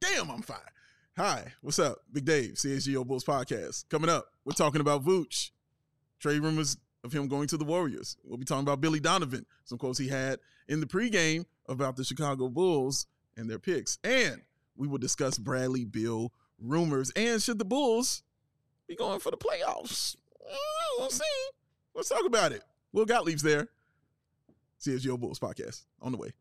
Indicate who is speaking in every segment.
Speaker 1: Damn, I'm fine. Hi, what's up? Big Dave, CSGO Bulls Podcast. Coming up, we're talking about Vooch. Trade rumors of him going to the Warriors. We'll be talking about Billy Donovan, some quotes he had in the pregame about the Chicago Bulls and their picks. And we will discuss Bradley Beal rumors. And should the Bulls be going for the playoffs? We'll see. Let's talk about it. Will Gottlieb's there. CSGO Bulls Podcast on the way.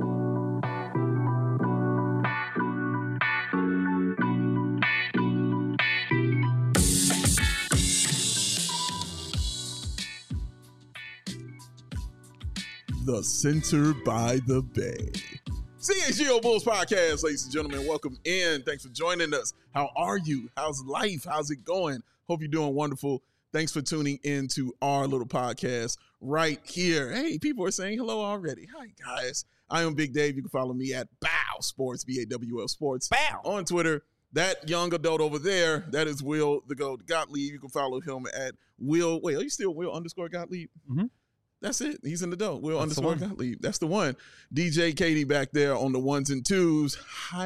Speaker 1: The Center by the Bay. CSGO Bulls Podcast, ladies and gentlemen. Welcome in. Thanks for joining us. How are you? How's life? How's it going? Hope you're doing wonderful. Thanks for tuning in to our little podcast right here. Hey, people are saying hello already. Hi, guys. I am Big Dave. You can follow me at BAW Sports, BAWL Sports, BAW, on Twitter. That young adult over there, that is Will the Goat Gottlieb. You can follow him at Will. Wait, are you still Will _ Gottlieb? Mm-hmm. That's it. He's an adult. Will _ Gottlieb. That's the one. DJ Katie back there on the ones and twos.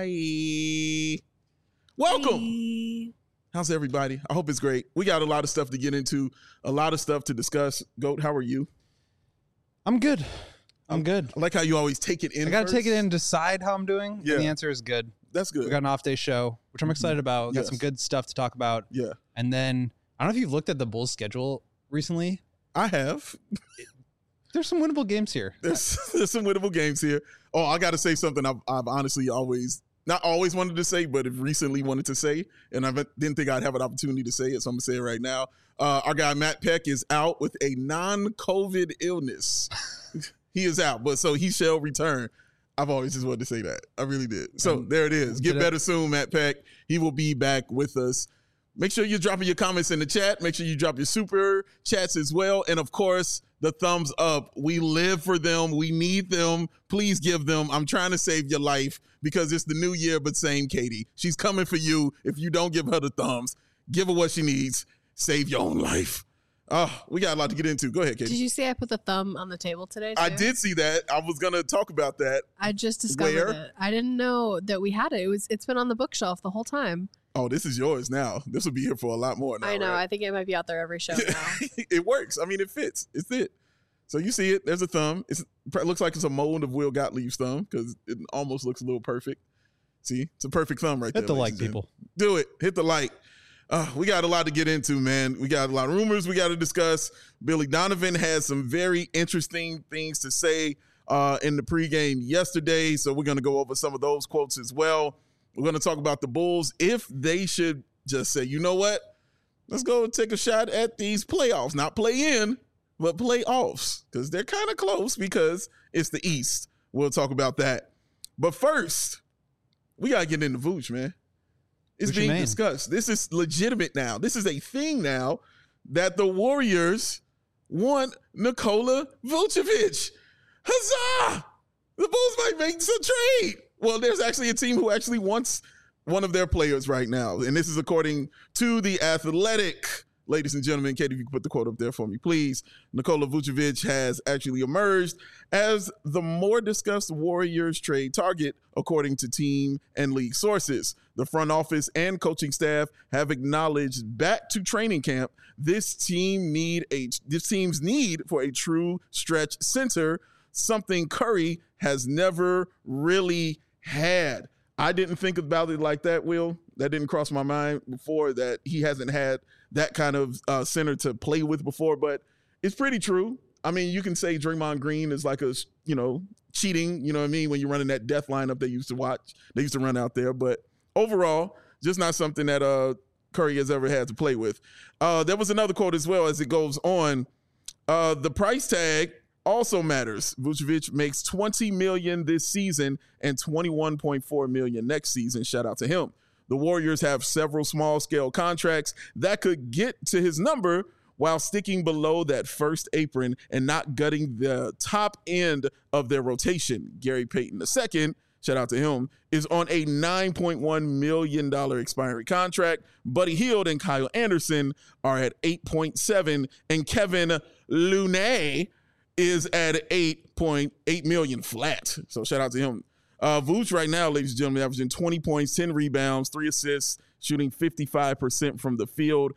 Speaker 1: Hi. Welcome. Hi. How's everybody? I hope it's great. We got a lot of stuff to get into, a lot of stuff to discuss. Goat, how are you?
Speaker 2: I'm good. I'm good.
Speaker 1: I like how you always take it in.
Speaker 2: I got to take it in and decide how I'm doing.
Speaker 1: Yeah.
Speaker 2: And the answer is good.
Speaker 1: That's good.
Speaker 2: We got an off day show, which I'm excited about. Got some good stuff to talk about.
Speaker 1: Yeah.
Speaker 2: And then I don't know if you've looked at the Bulls schedule recently.
Speaker 1: I have.
Speaker 2: There's some winnable games here.
Speaker 1: There's some winnable games here. Oh, I got to say something I've honestly not always wanted to say, but have recently wanted to say, and I didn't think I'd have an opportunity to say it, so I'm going to say it right now. Our guy Matt Peck is out with a non-COVID illness. He is out, but so he shall return. I've always just wanted to say that. I really did. So there it is. Get better soon, Matt Peck. He will be back with us. Make sure you're dropping your comments in the chat. Make sure you drop your super chats as well. And, of course, the thumbs up. We live for them. We need them. Please give them. I'm trying to save your life because it's the new year, but same Katie. She's coming for you. If you don't give her the thumbs, give her what she needs. Save your own life. Oh, we got a lot to get into. Go ahead, Katie.
Speaker 3: Did you see I put the thumb on the table today, too?
Speaker 1: I did see that. I was going to talk about that.
Speaker 3: I just discovered it. I didn't know that we had it. It's been on the bookshelf the whole time.
Speaker 1: Oh, this is yours now. This will be here for a lot more now.
Speaker 3: I know.
Speaker 1: Right?
Speaker 3: I think it might be out there every show now.
Speaker 1: It works. I mean, it fits. It's it. So you see it. There's a thumb. It looks like it's a mold of Will Gottlieb's thumb because it almost looks a little perfect. See? It's a perfect thumb right there.
Speaker 2: Hit the like, people.
Speaker 1: Do it. Hit the like. We got a lot to get into, man. We got a lot of rumors we got to discuss. Billy Donovan has some very interesting things to say in the pregame yesterday, so we're going to go over some of those quotes as well. We're going to talk about the Bulls if they should just say, you know what, let's go take a shot at these playoffs. Not play in, but playoffs, because they're kind of close because it's the East. We'll talk about that. But first, we got to get into Vooch, man. It's being discussed. This is legitimate now. This is a thing now that the Warriors want Nikola Vucevic. Huzzah! The Bulls might make some trade. Well, there's actually a team who actually wants one of their players right now. And this is according to The Athletic. Ladies and gentlemen, Katie, if you can put the quote up there for me, please. Nikola Vucevic has actually emerged as the more discussed Warriors trade target, according to team and league sources. The front office and coaching staff have acknowledged back to training camp this team's need for a true stretch center, something Curry has never really had. I didn't think about it like that, Will. That didn't cross my mind before, that he hasn't had that kind of center to play with before, but it's pretty true. I mean, you can say Draymond Green is like cheating, you know what I mean, when you're running that death lineup they used to run out there, but overall, just not something that Curry has ever had to play with. There was another quote as well as it goes on. The price tag also matters. Vucevic makes $20 million this season and $21.4 million next season. Shout out to him. The Warriors have several small-scale contracts that could get to his number while sticking below that first apron and not gutting the top end of their rotation. Gary Payton II, shout out to him, is on a $9.1 million expiring contract. Buddy Hield and Kyle Anderson are at $8.7, and Kevin Looney is at $8.8 million flat. So shout out to him. Vooch right now, ladies and gentlemen, averaging 20 points, 10 rebounds, 3 assists, shooting 55% from the field,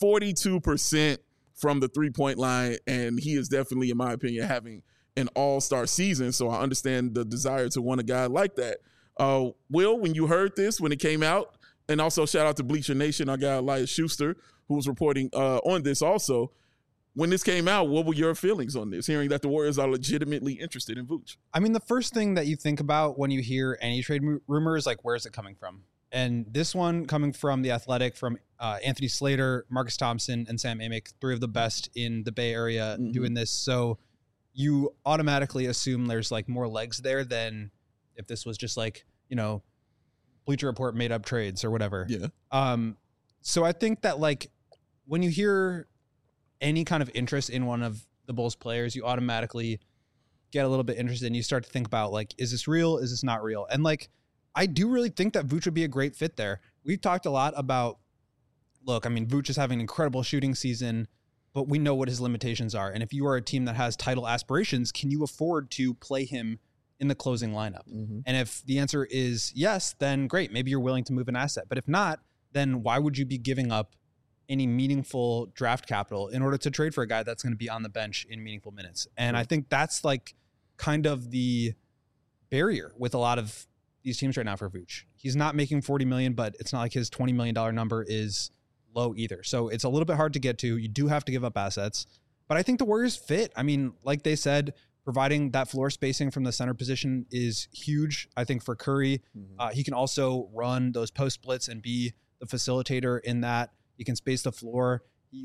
Speaker 1: 42% from the three-point line, and he is definitely, in my opinion, having an all-star season, so I understand the desire to want a guy like that. Will, when you heard this, when it came out, and also shout out to Bleacher Nation, our guy Elias Schuster, who was reporting on this also. When this came out, what were your feelings on this, hearing that the Warriors are legitimately interested in Vooch?
Speaker 2: I mean, the first thing that you think about when you hear any trade rumor is like, where's it coming from? And this one coming from The Athletic, from Anthony Slater, Marcus Thompson, and Sam Amick, 3 of the best in the Bay Area doing this. So you automatically assume there's like more legs there than if this was just like, you know, Bleacher Report made up trades or whatever.
Speaker 1: Yeah.
Speaker 2: So I think that like when you hear any kind of interest in one of the Bulls players, you automatically get a little bit interested and you start to think about like, is this real? Is this not real? And like, I do really think that Vooch would be a great fit there. We've talked a lot about, look, I mean, Vooch is having an incredible shooting season, but we know what his limitations are. And if you are a team that has title aspirations, can you afford to play him in the closing lineup? And if the answer is yes, then great. Maybe you're willing to move an asset. But if not, then why would you be giving up any meaningful draft capital in order to trade for a guy that's going to be on the bench in meaningful minutes? And I think that's like kind of the barrier with a lot of these teams right now for Vooch. He's not making $40 million, but it's not like his $20 million number is low either. So it's a little bit hard to get to. You do have to give up assets, but I think the Warriors fit. I mean, like they said, providing that floor spacing from the center position is huge. I think for Curry, he can also run those post splits and be the facilitator in that. You can space the floor.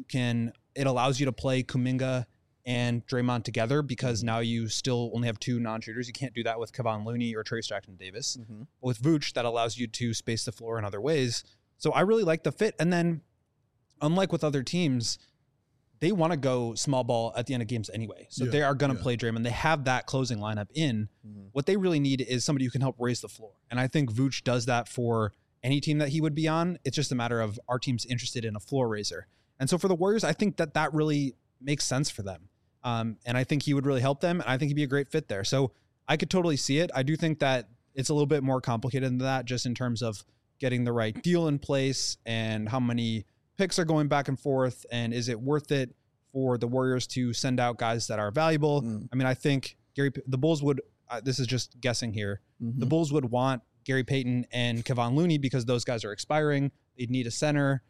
Speaker 2: It allows you to play Kuminga and Draymond together because now you still only have 2 non-shooters. You can't do that with Kevon Looney or Trayce Jackson-Davis. But with Vooch, that allows you to space the floor in other ways. So I really like the fit. And then, unlike with other teams, they want to go small ball at the end of games anyway. So they are going to play Draymond. They have that closing lineup in. What they really need is somebody who can help raise the floor. And I think Vooch does that for any team that he would be on. It's just a matter of our team's interested in a floor raiser. And so for the Warriors, I think that really makes sense for them. And I think he would really help them. And I think he'd be a great fit there. So I could totally see it. I do think that it's a little bit more complicated than that, just in terms of getting the right deal in place and how many picks are going back and forth. And is it worth it for the Warriors to send out guys that are valuable? I mean, I think the Bulls would, this is just guessing here. The Bulls would want Gary Payton and Kevon Looney because those guys are expiring. They'd need a center.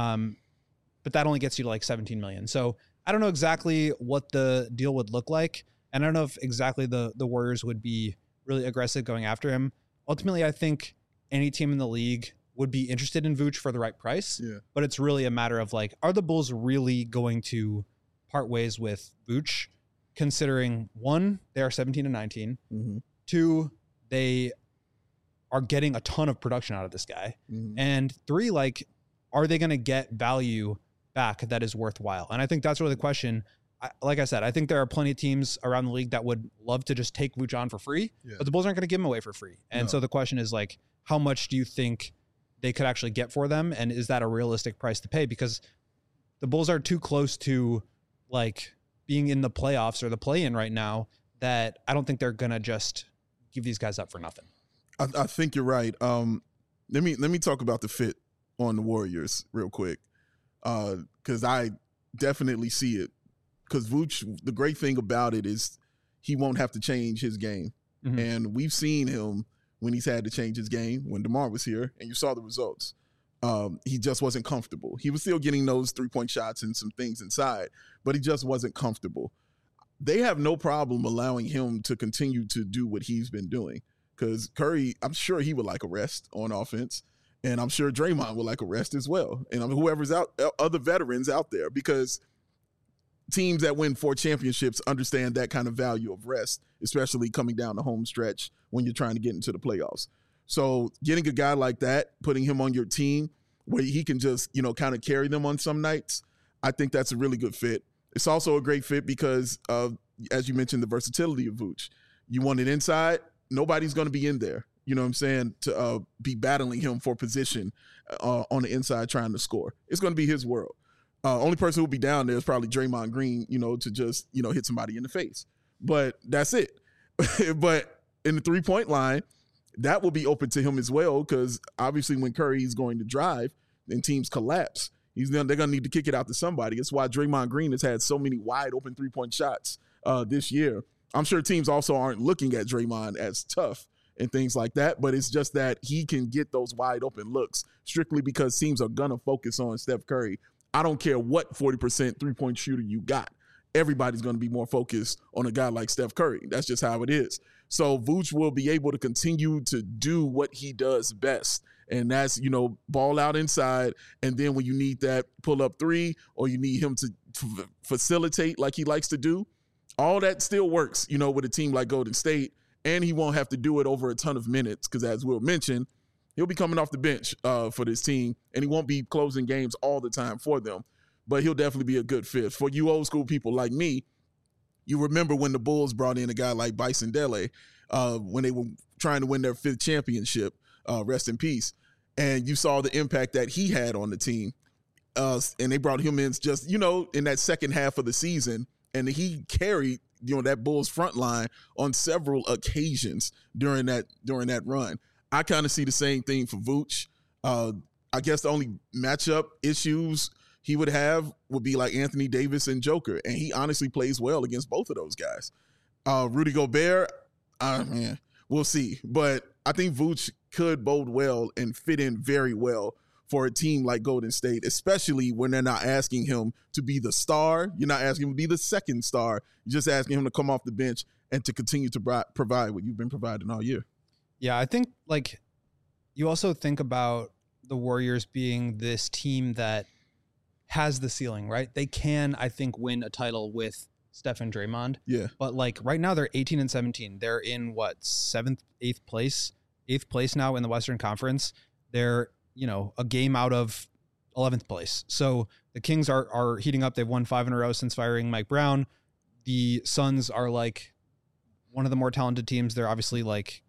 Speaker 2: But that only gets you to like $17 million. So I don't know exactly what the deal would look like. And I don't know if exactly the Warriors would be really aggressive going after him. Ultimately, I think any team in the league would be interested in Vooch for the right price. But it's really a matter of like, are the Bulls really going to part ways with Vooch, considering 1, they are 17-19. 2, they are getting a ton of production out of this guy. And 3, like, are they going to get value back that is worthwhile? And I think that's really the question. Like I said, I think there are plenty of teams around the league that would love to just take Vooch on for free, but the Bulls aren't going to give him away for free. And so the question is like, how much do you think they could actually get for them? And is that a realistic price to pay? Because the Bulls are too close to like being in the playoffs or the play-in right now that I don't think they're going to just give these guys up for nothing.
Speaker 1: I think you're right. Let me talk about the fit on the Warriors real quick, because I definitely see it. Because Vooch, the great thing about it is he won't have to change his game. And we've seen him when he's had to change his game, when DeMar was here, and you saw the results. He just wasn't comfortable. He was still getting those three-point shots and some things inside, but he just wasn't comfortable. They have no problem allowing him to continue to do what he's been doing, because Curry, I'm sure he would like a rest on offense, and I'm sure Draymond would like a rest as well, and whoever's out, other veterans out there, because teams that win 4 championships understand that kind of value of rest, especially coming down the home stretch when you're trying to get into the playoffs. So getting a guy like that, putting him on your team where he can just, kind of carry them on some nights, I think that's a really good fit. It's also a great fit because of, as you mentioned, the versatility of Vooch. You want it inside, nobody's going to be in there, you know what I'm saying, to be battling him for position on the inside trying to score. It's going to be his world. Only person who will be down there is probably Draymond Green, to just, hit somebody in the face. But that's it. But in the three-point line, that will be open to him as well, because obviously when Curry is going to drive, then teams collapse. They're going to need to kick it out to somebody. That's why Draymond Green has had so many wide open three-point shots this year. I'm sure teams also aren't looking at Draymond as tough and things like that, but it's just that he can get those wide open looks strictly because teams are going to focus on Steph Curry. I don't care what 40% three-point shooter you got. Everybody's going to be more focused on a guy like Steph Curry. That's just how it is. So Vooch will be able to continue to do what he does best. And that's, ball out inside. And then when you need that pull up three, or you need him to facilitate like he likes to do, all that still works, with a team like Golden State. And he won't have to do it over a ton of minutes because, as Will mentioned, he'll be coming off the bench for this team, and he won't be closing games all the time for them. But he'll definitely be a good fit. For you old school people like me, you remember when the Bulls brought in a guy like Bison Dele when they were trying to win their 5th championship, rest in peace. And you saw the impact that he had on the team. And they brought him in just, in that second half of the season. And he carried, that Bulls front line on several occasions during that run. I kind of see the same thing for Vooch. I guess the only matchup issues he would have would be like Anthony Davis and Joker. And he honestly plays well against both of those guys. Rudy Gobert, man, we'll see. But I think Vooch could bode well and fit in very well for a team like Golden State, especially when they're not asking him to be the star. You're not asking him to be the second star. You're just asking him to come off the bench and to continue to provide what you've been providing all year.
Speaker 2: Yeah, I think you also think about the Warriors being this team that has the ceiling, right? They can, I think, win a title with Steph and Draymond.
Speaker 1: Yeah.
Speaker 2: But right now they're 18 and 17. They're in eighth place now in the Western Conference. They're, a game out of 11th place. So the Kings are heating up. They've won 5 in a row since firing Mike Brown. The Suns are one of the more talented teams. They're obviously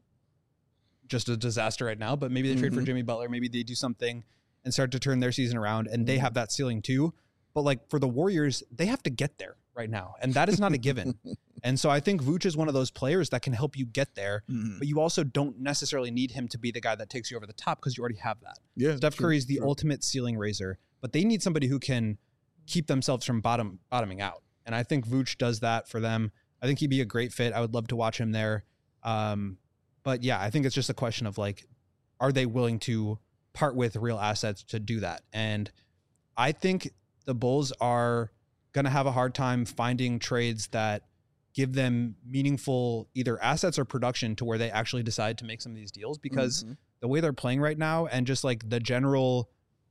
Speaker 2: just a disaster right now, but maybe they trade for Jimmy Butler. Maybe they do something and start to turn their season around, and they have that ceiling too. But for the Warriors, they have to get there right now, and that is not a given. And so I think Vooch is one of those players that can help you get there, but you also don't necessarily need him to be the guy that takes you over the top because you already have that.
Speaker 1: Yeah,
Speaker 2: Steph Curry is the ultimate ceiling raiser, but they need somebody who can keep themselves from bottoming out. And I think Vooch does that for them. I think he'd be a great fit. I would love to watch him there. But yeah, I think it's just a question of are they willing to part with real assets to do that? And I think the Bulls are going to have a hard time finding trades that give them meaningful either assets or production to where they actually decide to make some of these deals, because the way they're playing right now and just the general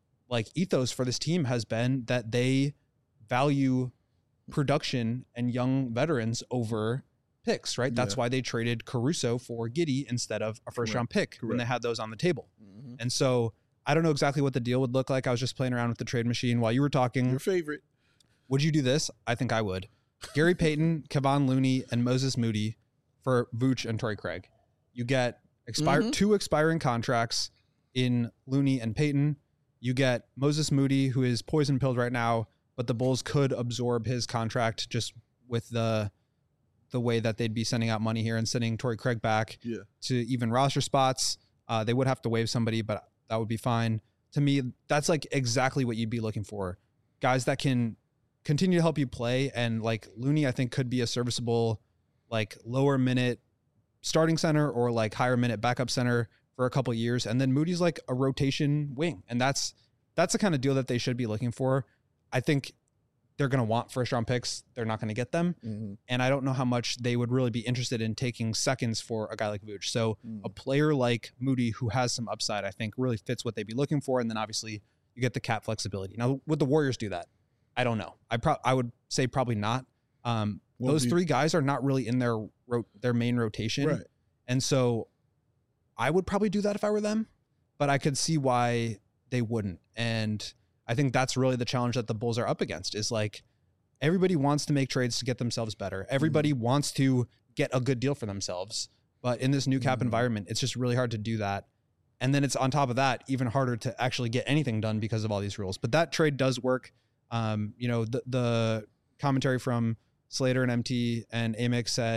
Speaker 2: ethos for this team has been that they value production and young veterans over picks, right? That's why they traded Caruso for Giddey instead of a first round pick when they had those on the table. And so I don't know exactly what the deal would look like. I was just playing around with the trade machine while you were talking.
Speaker 1: Your favorite.
Speaker 2: Would you do this? I think I would. Gary Payton, Kevon Looney, and Moses Moody for Vooch and Torrey Craig. You get two expiring contracts in Looney and Payton. You get Moses Moody, who is poison pilled right now, but the Bulls could absorb his contract just with the way that they'd be sending out money here and sending Torrey Craig back to even roster spots. They would have to waive somebody, but that would be fine. To me, that's exactly what you'd be looking for. Guys that can continue to help you play. And Looney, I think, could be a serviceable, lower minute starting center or higher minute backup center for a couple of years. And then Moody's a rotation wing. And that's the kind of deal that they should be looking for. I think they're going to want first round picks. They're not going to get them. And I don't know how much they would really be interested in taking seconds for a guy like Vooch. So a player like Moody, who has some upside, I think really fits what they'd be looking for. And then obviously you get the cap flexibility. Now, would the Warriors do that? I don't know. I would say probably not. Those three guys are not really in their main rotation.
Speaker 1: Right.
Speaker 2: And so I would probably do that if I were them, but I could see why they wouldn't. And I think that's really the challenge that the Bulls are up against is everybody wants to make trades to get themselves better. Everybody wants to get a good deal for themselves. But in this new cap environment, it's just really hard to do that. And then it's on top of that, even harder to actually get anything done because of all these rules. But that trade does work. The commentary from Slater and MT and Amix said,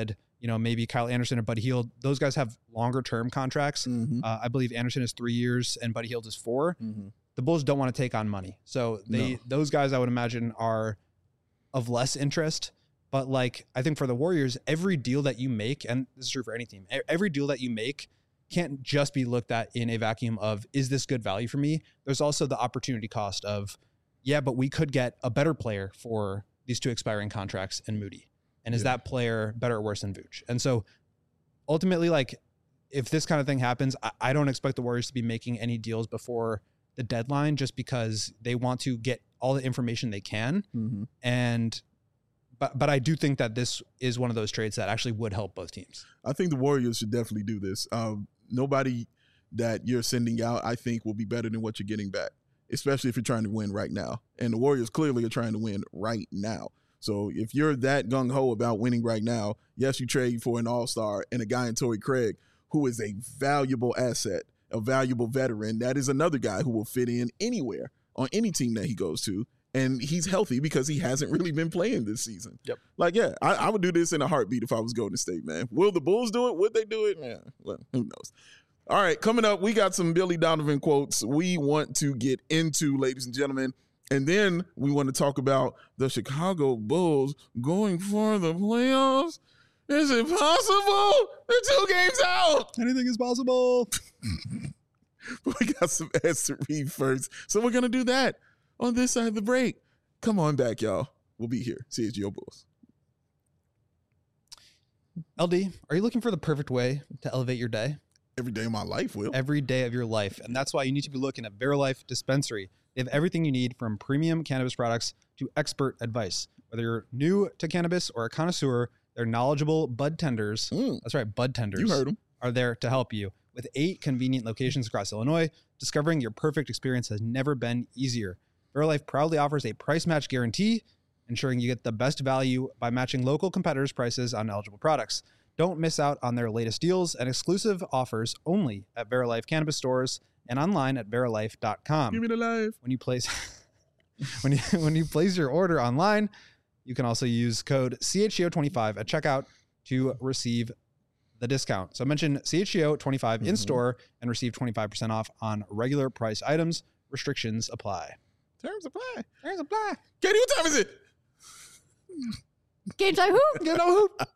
Speaker 2: maybe Kyle Anderson or Buddy Hield. Those guys have longer term contracts.
Speaker 1: Mm-hmm.
Speaker 2: I believe Anderson is 3 years and Buddy Hield is 4.
Speaker 1: Mm-hmm.
Speaker 2: The Bulls don't want to take on money. So those guys I would imagine are of less interest. But like, I think for the Warriors, every deal that you make, and this is true for any team, every deal that you make can't just be looked at in a vacuum of, is this good value for me? There's also the opportunity cost of, yeah, but we could get a better player for these 2 expiring contracts in Moody. And is that player better or worse than Vooch? And so ultimately, like, if this kind of thing happens, I don't expect the Warriors to be making any deals before the deadline just because they want to get all the information they can.
Speaker 1: Mm-hmm.
Speaker 2: But I do think that this is one of those trades that actually would help both teams.
Speaker 1: I think the Warriors should definitely do this. Nobody that you're sending out, I think, will be better than what you're getting back, especially if you're trying to win right now. And the Warriors clearly are trying to win right now. So if you're that gung-ho about winning right now, yes, you trade for an all-star and a guy in Torrey Craig who is a valuable asset, a valuable veteran. That is another guy who will fit in anywhere on any team that he goes to. And he's healthy because he hasn't really been playing this season.
Speaker 2: Yep.
Speaker 1: Like, yeah, I would do this in a heartbeat if I was Golden State, man. Will the Bulls do it? Would they do it? Man, well, who knows? All right, coming up, we got some Billy Donovan quotes we want to get into, ladies and gentlemen. And then we want to talk about the Chicago Bulls going for the playoffs. Is it possible? They're 2 games out.
Speaker 2: Anything is possible.
Speaker 1: We got some ads to read first. So we're going to do that on this side of the break. Come on back, y'all. We'll be here. CHGO Bulls.
Speaker 2: LD, are you looking for the perfect way to elevate your day?
Speaker 1: Every day of my life, Will.
Speaker 2: Every day of your life. And that's why you need to be looking at Verilife Dispensary. They have everything you need from premium cannabis products to expert advice. Whether you're new to cannabis or a connoisseur, their knowledgeable bud tenders, that's right, bud tenders,
Speaker 1: You heard them.
Speaker 2: are there to help you. With 8 convenient locations across Illinois, discovering your perfect experience has never been easier. Verilife proudly offers a price match guarantee, ensuring you get the best value by matching local competitors' prices on eligible products. Don't miss out on their latest deals and exclusive offers only at Verilife Cannabis stores and online at verilife.com.
Speaker 1: Give me the life.
Speaker 2: When you place when you place your order online, you can also use code CHGO25 at checkout to receive the discount. So mention CHGO25 in store and receive 25% off on regular price items. Restrictions apply.
Speaker 1: Terms apply.
Speaker 2: There's a black.
Speaker 1: Katie, what time is it?
Speaker 3: Game time hoop.
Speaker 2: You know who?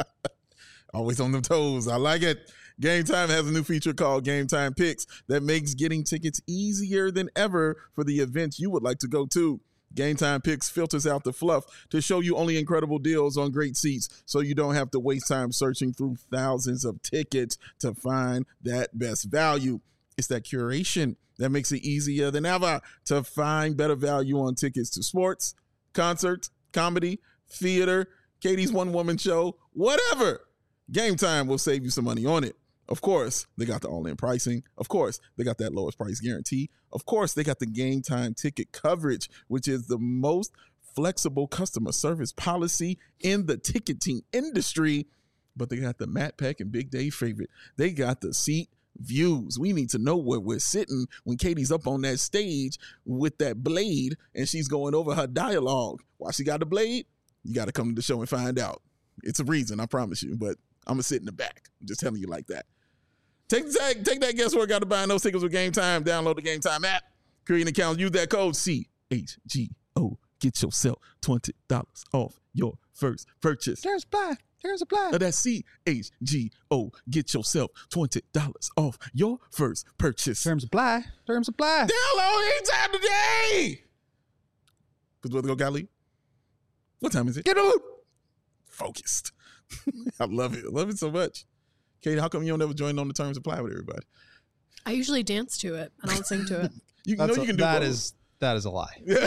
Speaker 1: Always on them toes. I like it. Game Time has a new feature called Game Time Picks that makes getting tickets easier than ever for the events you would like to go to. Game Time Picks filters out the fluff to show you only incredible deals on great seats so you don't have to waste time searching through thousands of tickets to find that best value. It's that curation that makes it easier than ever to find better value on tickets to sports, concerts, comedy, theater, Katie's one-woman show, whatever. Game Time will save you some money on it. Of course, they got the all-in pricing. Of course, they got that lowest price guarantee. Of course, they got the Game Time ticket coverage, which is the most flexible customer service policy in the ticketing industry. But they got the Matt Peck and Big Dave favorite. They got the seat views. We need to know where we're sitting when Katie's up on that stage with that blade and she's going over her dialogue. Why she got the blade? You got to come to the show and find out. It's a reason, I promise you, but I'm going to sit in the back. I'm just telling you like that. Take that guesswork out of buying those tickets with Game Time. Download the Game Time app. Create an account. Use that code CHGO. Get yourself $20 off your first purchase.
Speaker 2: There's a black.
Speaker 1: That's CHGO. Get yourself $20 off your first purchase.
Speaker 2: Terms apply.
Speaker 1: Download anytime today. Because what go Golly? What time is it?
Speaker 2: Get out.
Speaker 1: Focused. I love it. I love it so much. Katie, how come you don't ever join on the Terms Apply with everybody?
Speaker 3: I usually dance to it. I don't sing to it.
Speaker 1: You know you can do both.
Speaker 2: That is a lie.
Speaker 3: No,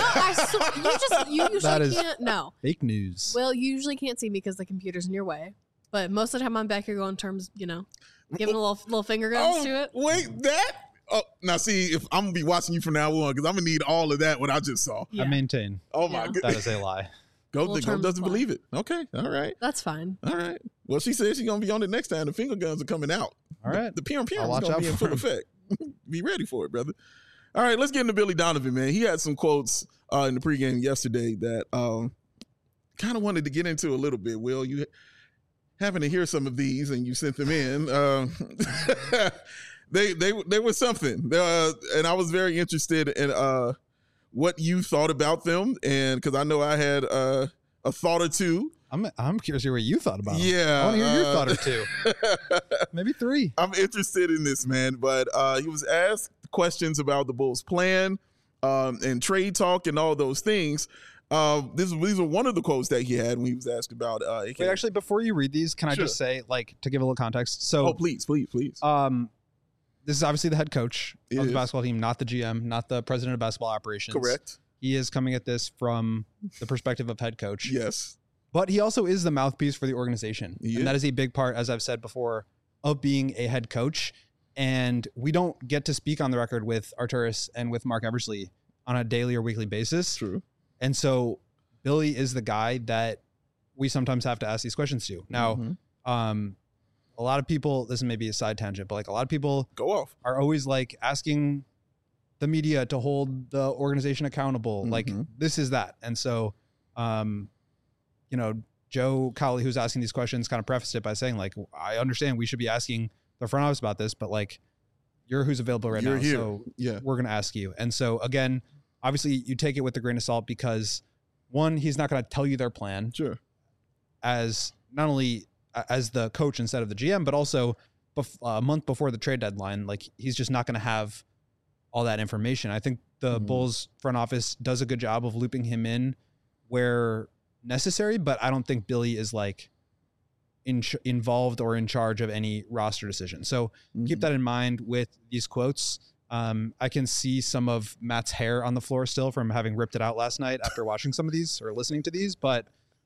Speaker 3: you usually can't. No.
Speaker 2: Fake news.
Speaker 3: Well, you usually can't see me because the computer's in your way. But most of the time I'm back here going terms, giving a little finger guns to it.
Speaker 1: Wait, that? Oh, now see, if I'm going to be watching you from now on, because I'm going to need all of that, what I just saw.
Speaker 3: Yeah.
Speaker 2: I maintain.
Speaker 1: Oh, my
Speaker 3: Yeah.
Speaker 1: goodness.
Speaker 2: That is a lie.
Speaker 1: Go doesn't believe it. Okay. All right.
Speaker 3: That's fine.
Speaker 1: All right. Well, she said she's going to be on it next time. The finger guns are coming out.
Speaker 2: All right.
Speaker 1: The PM is
Speaker 2: I'll watch
Speaker 1: going to
Speaker 2: out
Speaker 1: be in
Speaker 2: for
Speaker 1: full
Speaker 2: him.
Speaker 1: effect. Be ready for it, brother. All right. Let's get into Billy Donovan, man. He had some quotes in the pregame yesterday that kind of wanted to get into a little bit. Will, happened to hear some of these and you sent them in. They were something, and I was very interested in what you thought about them, and because I know I had a thought or two.
Speaker 2: I'm curious to hear what you thought about them.
Speaker 1: Yeah,
Speaker 2: I want to hear your thought or two, maybe 3.
Speaker 1: I'm interested in this, man. But he was asked questions about the Bulls' plan and trade talk and all those things. These are one of the quotes that he had when he was asked about.
Speaker 2: Wait, actually, before you read these, can I just say, like, to give a little context? So,
Speaker 1: please.
Speaker 2: This is obviously the head coach of the
Speaker 1: is.
Speaker 2: basketball team, not the GM, not the president of basketball operations.
Speaker 1: Correct.
Speaker 2: He is coming at this from the perspective of head coach.
Speaker 1: Yes.
Speaker 2: But he also is the mouthpiece for the organization.
Speaker 1: Yeah.
Speaker 2: And that is a big part, as I've said before, of being a head coach. And we don't get to speak on the record with Arturas and with Mark Eversley on a daily or weekly basis.
Speaker 1: True.
Speaker 2: And so Billy is the guy that we sometimes have to ask these questions to. Now, a lot of people, this is maybe a side tangent, but like a lot of people
Speaker 1: Go off.
Speaker 2: are always like asking the media to hold the organization accountable. Like this is that. And so, you know, Joe Cowley, who's asking these questions, kind of prefaced it by saying, like, I understand we should be asking the front office about this, but like, you're who's available right
Speaker 1: You're
Speaker 2: now.
Speaker 1: here.
Speaker 2: So
Speaker 1: Yeah.
Speaker 2: we're going to ask you. And so again, obviously you take it with a grain of salt because one, he's not going to tell you their plan
Speaker 1: Sure.
Speaker 2: as not only as the coach instead of the GM, but also a month before the trade deadline. Like he's just not going to have all that information. I think the Bulls front office does a good job of looping him in where necessary, but I don't think Billy is like involved or in charge of any roster decision. So keep that in mind with these quotes. I can see some of Matt's hair on the floor still from having ripped it out last night after watching some of these or listening to these, but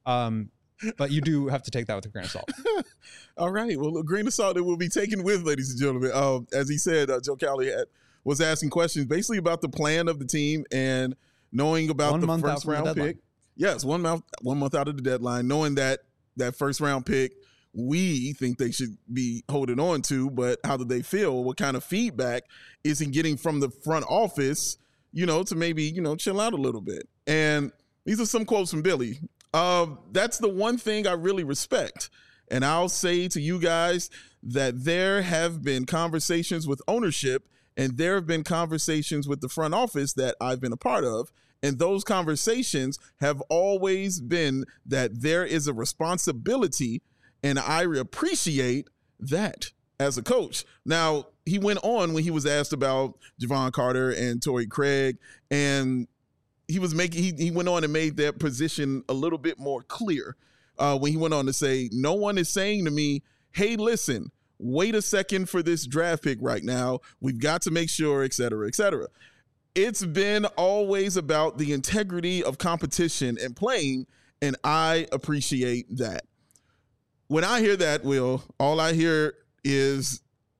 Speaker 2: you do have to take that with a grain of salt.
Speaker 1: All right. Well, a grain of salt that will be taken with, ladies and gentlemen. As he said, Joe Cowley was asking questions basically about the plan of the team and knowing about the first round pick. Yes, 1 month out of the deadline, knowing that first round pick we think they should be holding on to, but how do they feel? What kind of feedback is he getting from the front office, to maybe, chill out a little bit? And these are some quotes from Billy. That's the one thing I really respect. And I'll say to you guys that there have been conversations with ownership and there have been conversations with the front office that I've been a part of. And those conversations have always been that there is a responsibility, and I appreciate that as a coach. Now, he went on when he was asked about Javon Carter and Torrey Craig, and he went on and made that position a little bit more clear when he went on to say, no one is saying to me, hey, listen, wait a second for this draft pick right now. We've got to make sure, et cetera, et cetera. It's been always about the integrity of competition and playing, and I appreciate that. When I hear that, Will, all I hear is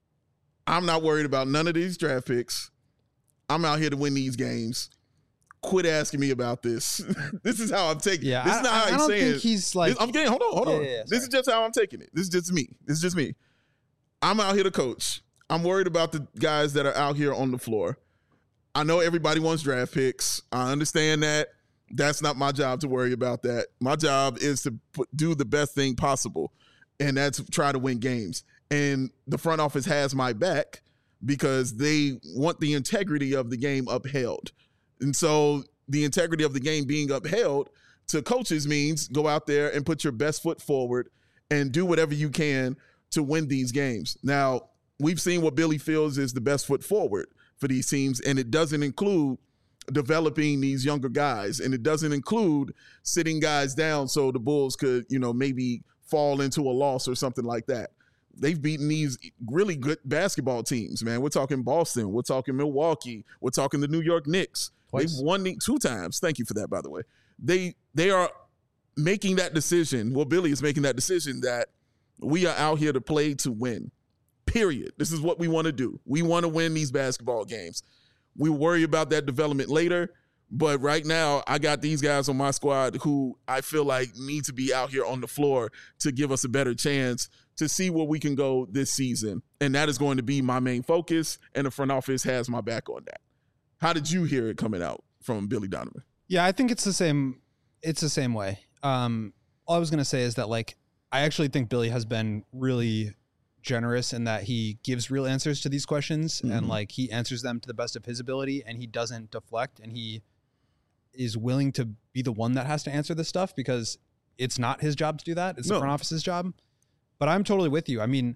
Speaker 1: I'm not worried about none of these draft picks. I'm out here to win these games. Quit asking me about this. This is how I'm taking it.
Speaker 2: Yeah,
Speaker 1: this is not how he's saying it.
Speaker 2: I don't think he's like...
Speaker 1: I'm getting, hold on.
Speaker 2: Yeah,
Speaker 1: this is just how I'm taking it. This is just me. I'm out here to coach. I'm worried about the guys that are out here on the floor. I know everybody wants draft picks. I understand that. That's not my job to worry about that. My job is to do the best thing possible, and that's try to win games. And the front office has my back because they want the integrity of the game upheld. And so the integrity of the game being upheld to coaches means go out there and put your best foot forward and do whatever you can to win these games. Now, we've seen what Billy feels is the best foot forward for these teams, and it doesn't include developing these younger guys, and it doesn't include sitting guys down so the Bulls could, maybe fall into a loss or something like that. They've beaten these really good basketball teams, man. We're talking Boston. We're talking Milwaukee. We're talking the New York Knicks.
Speaker 2: Twice.
Speaker 1: They've won 2 times. Thank you for that, by the way. They are making that decision. Well, Billy is making that decision that we are out here to play to win. Period. This is what we want to do. We want to win these basketball games. We worry about that development later, but right now I got these guys on my squad who I feel like need to be out here on the floor to give us a better chance to see where we can go this season. And that is going to be my main focus, and the front office has my back on that. How did you hear it coming out from Billy Donovan?
Speaker 2: Yeah, I think it's the same. It's the same way. All I was going to say is that, like, I actually think Billy has been really generous in that he gives real answers to these questions and like he answers them to the best of his ability and he doesn't deflect and he is willing to be the one that has to answer this stuff because it's not his job to do that. It's the front office's job. But I'm totally with you. I mean,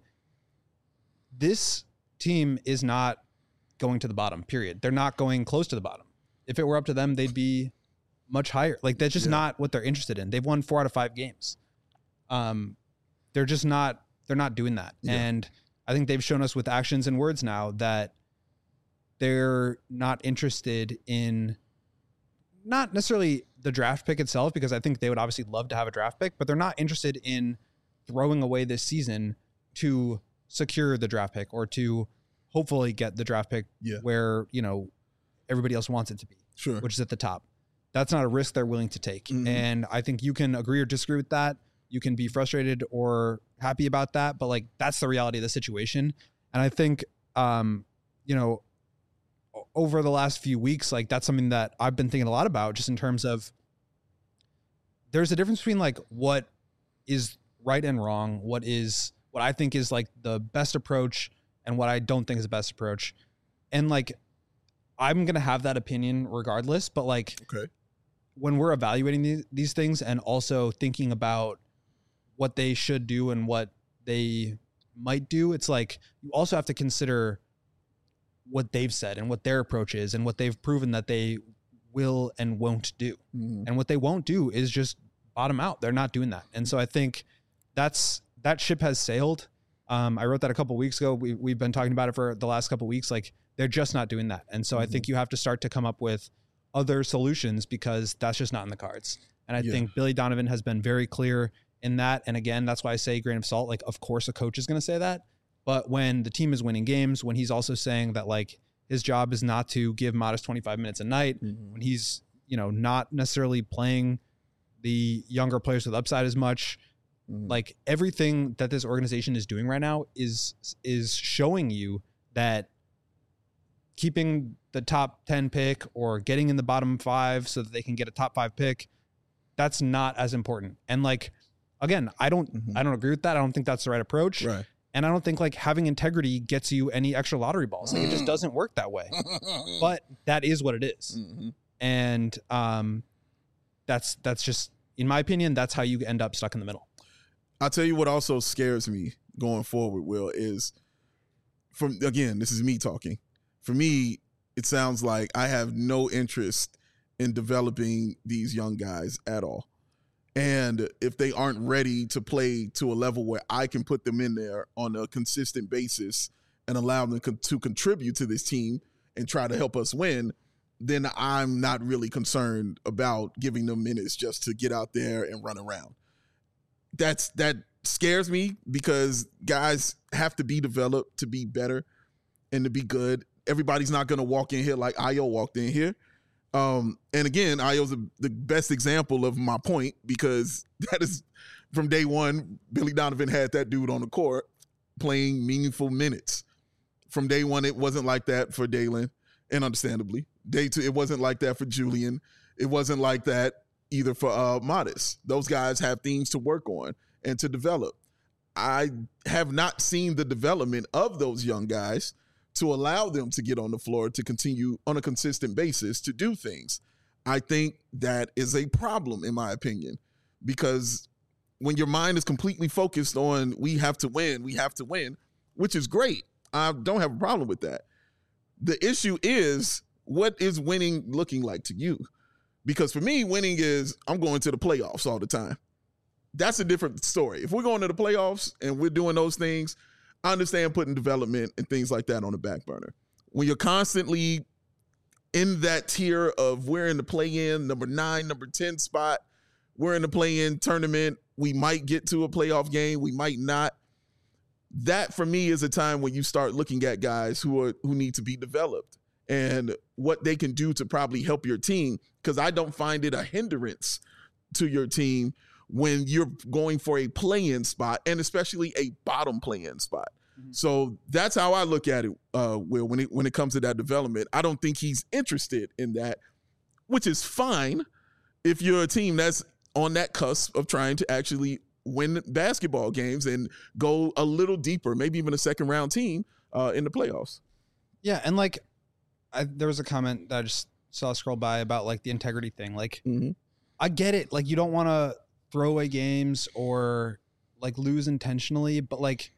Speaker 2: this team is not going to the bottom, period. They're not going close to the bottom. If it were up to them, they'd be much higher. Like that's just not what they're interested in. They've won 4 out of 5 games. They're just not, they're not doing that. Yeah. And I think they've shown us with actions and words now that they're not interested in not necessarily the draft pick itself, because I think they would obviously love to have a draft pick, but they're not interested in throwing away this season to secure the draft pick or to hopefully get the draft pick where, you know, everybody else wants it to be, which is at the top. That's not a risk they're willing to take. And I think you can agree or disagree with that. You can be frustrated or happy about that, but like, that's the reality of the situation. And I think, you know, over the last few weeks, like that's something that I've been thinking a lot about just in terms of there's a difference between like what is right and wrong, what I think is like the best approach and what I don't think is the best approach. And like, I'm going to have that opinion regardless, but like when we're evaluating these things and also thinking about what they should do and what they might do, it's like, you also have to consider what they've said and what their approach is and what they've proven that they will and won't do. And what they won't do is just bottom out. They're not doing that. And so I think that ship has sailed. I wrote that a couple of weeks ago. We've been talking about it for the last couple of weeks. Like they're just not doing that. And so I think you have to start to come up with other solutions because that's just not in the cards. And I think Billy Donovan has been very clear in that. And again, that's why I say grain of salt. Like, of course a coach is going to say that. But when the team is winning games, when he's also saying that like his job is not to give Modest 25 minutes a night, when he's, you know, not necessarily playing the younger players with upside as much, like everything that this organization is doing right now is showing you that keeping the top 10 pick or getting in the bottom 5 so that they can get a top 5 pick, that's not as important. And like, again, I don't agree with that. I don't think that's the right approach. Right. And I don't think like having integrity gets you any extra lottery balls. Like it just doesn't work that way. But that is what it is. And that's just, in my opinion, that's how you end up stuck in the middle.
Speaker 1: I'll tell you what also scares me going forward, Will, is this is me talking. For me, it sounds like I have no interest in developing these young guys at all. And if they aren't ready to play to a level where I can put them in there on a consistent basis and allow them to contribute to this team and try to help us win, then I'm not really concerned about giving them minutes just to get out there and run around. That scares me because guys have to be developed to be better and to be good. Everybody's not going to walk in here like Ayo walked in here. And again, Ayo's the best example of my point because that is from day one, Billy Donovan had that dude on the court playing meaningful minutes. From day one, it wasn't like that for Dalen, and understandably. Day two, it wasn't like that for Julian. It wasn't like that either for Modest. Those guys have things to work on and to develop. I have not seen the development of those young guys to allow them to get on the floor to continue on a consistent basis to do things. I think that is a problem, in my opinion, because when your mind is completely focused on we have to win, which is great. I don't have a problem with that. The issue is, what is winning looking like to you? Because for me, winning is I'm going to the playoffs all the time. That's a different story. If we're going to the playoffs and we're doing those things, I understand putting development and things like that on the back burner. When you're constantly in that tier of we're in the play-in, number 9, number 10 spot, we're in the play-in tournament, we might get to a playoff game, we might not. That, for me, is a time when you start looking at guys who need to be developed and what they can do to probably help your team, because I don't find it a hindrance to your team when you're going for a play-in spot, and especially a bottom play-in spot. So that's how I look at it, Will, when it comes to that development. I don't think he's interested in that, which is fine if you're a team that's on that cusp of trying to actually win basketball games and go a little deeper, maybe even a second round team in the playoffs.
Speaker 2: Yeah, and like there was a comment that I just saw scroll by about like the integrity thing. Like I get it. Like you don't want to throw away games or like lose intentionally, but like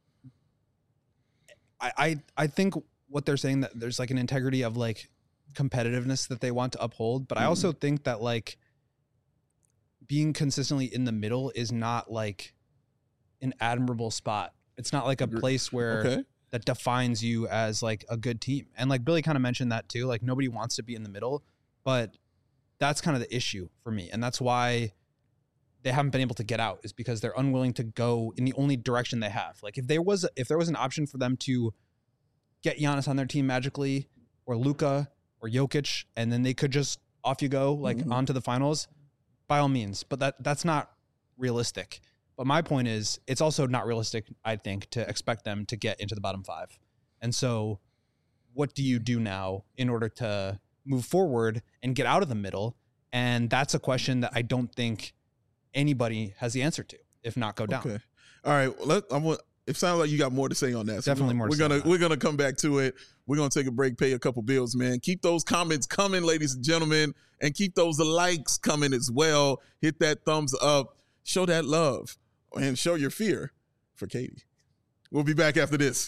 Speaker 2: I think what they're saying, that there's like an integrity of like competitiveness that they want to uphold. But I also think that like being consistently in the middle is not like an admirable spot. It's not like a place where that defines you as like a good team. And like Billy kind of mentioned that too. Like nobody wants to be in the middle, but that's kind of the issue for me. And that's why they haven't been able to get out, is because they're unwilling to go in the only direction they have. Like if there was an option for them to get Giannis on their team magically, or Luka or Jokic, and then they could just off you go, like on to the finals, by all means. But that's not realistic. But my point is, it's also not realistic, I think, to expect them to get into the bottom 5. And so what do you do now in order to move forward and get out of the middle? And that's a question that I don't think anybody has the answer to, if not go down.
Speaker 1: Okay. All right. It sounds like you got more to say on that. So
Speaker 2: Definitely more to say.
Speaker 1: We're gonna come back to it. We're gonna take a break, pay a couple bills, man. Keep those comments coming, ladies and gentlemen, and keep those likes coming as well. Hit that thumbs up, show that love, and show your fear for Katie. We'll be back after this.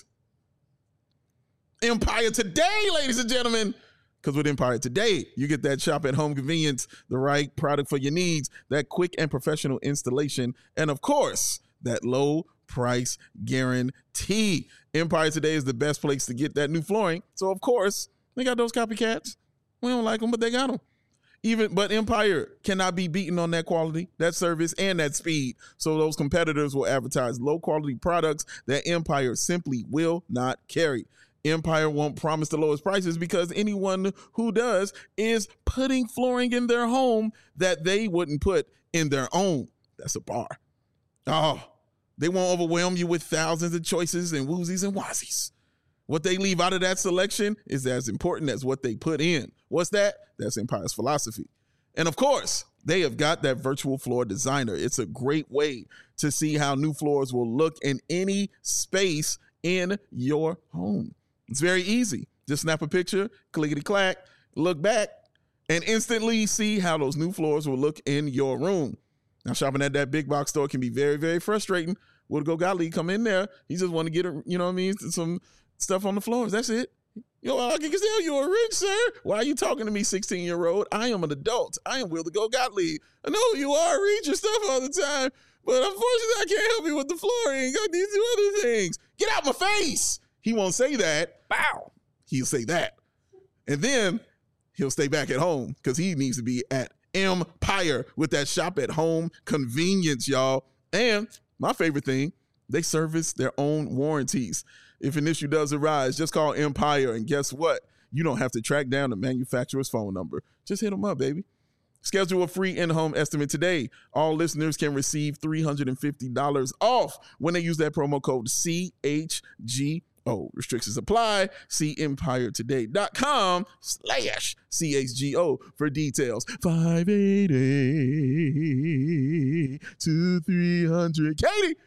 Speaker 1: Empire Today, ladies and gentlemen. Because with Empire Today, you get that shop at home convenience, the right product for your needs, that quick and professional installation, and of course, that low price guarantee. Empire Today is the best place to get that new flooring. So of course, they got those copycats. We don't like them, but they got them. But Empire cannot be beaten on that quality, that service, and that speed. So those competitors will advertise low quality products that Empire simply will not carry. Empire won't promise the lowest prices because anyone who does is putting flooring in their home that they wouldn't put in their own. That's a bar. Oh, they won't overwhelm you with thousands of choices and woozies and wazies. What they leave out of that selection is as important as what they put in. What's that? That's Empire's philosophy. And of course, they have got that virtual floor designer. It's a great way to see how new floors will look in any space in your home. It's very easy. Just snap a picture, clickety-clack, look back, and instantly see how those new floors will look in your room. Now, shopping at that big box store can be very, very frustrating. Would go Gottlieb come in there? He just want to get, some stuff on the floors. That's it. Yo, I can tell you're rich, sir. Why are you talking to me, 16-year-old? I am an adult. I am Will to Go Gottlieb. I know you are. Read your stuff all the time, but unfortunately, I can't help you with the flooring. I need to do other things. Get out my face. He won't say that. Bow. He'll say that. And then he'll stay back at home because he needs to be at Empire with that shop at home convenience, y'all. And my favorite thing, they service their own warranties. If an issue does arise, just call Empire, and guess what? You don't have to track down the manufacturer's phone number. Just hit them up, baby. Schedule a free in-home estimate today. All listeners can receive $350 off when they use that promo code CHG. Restrictions apply. See EmpireToday.com/CHGO for details. 580-2300. Katie.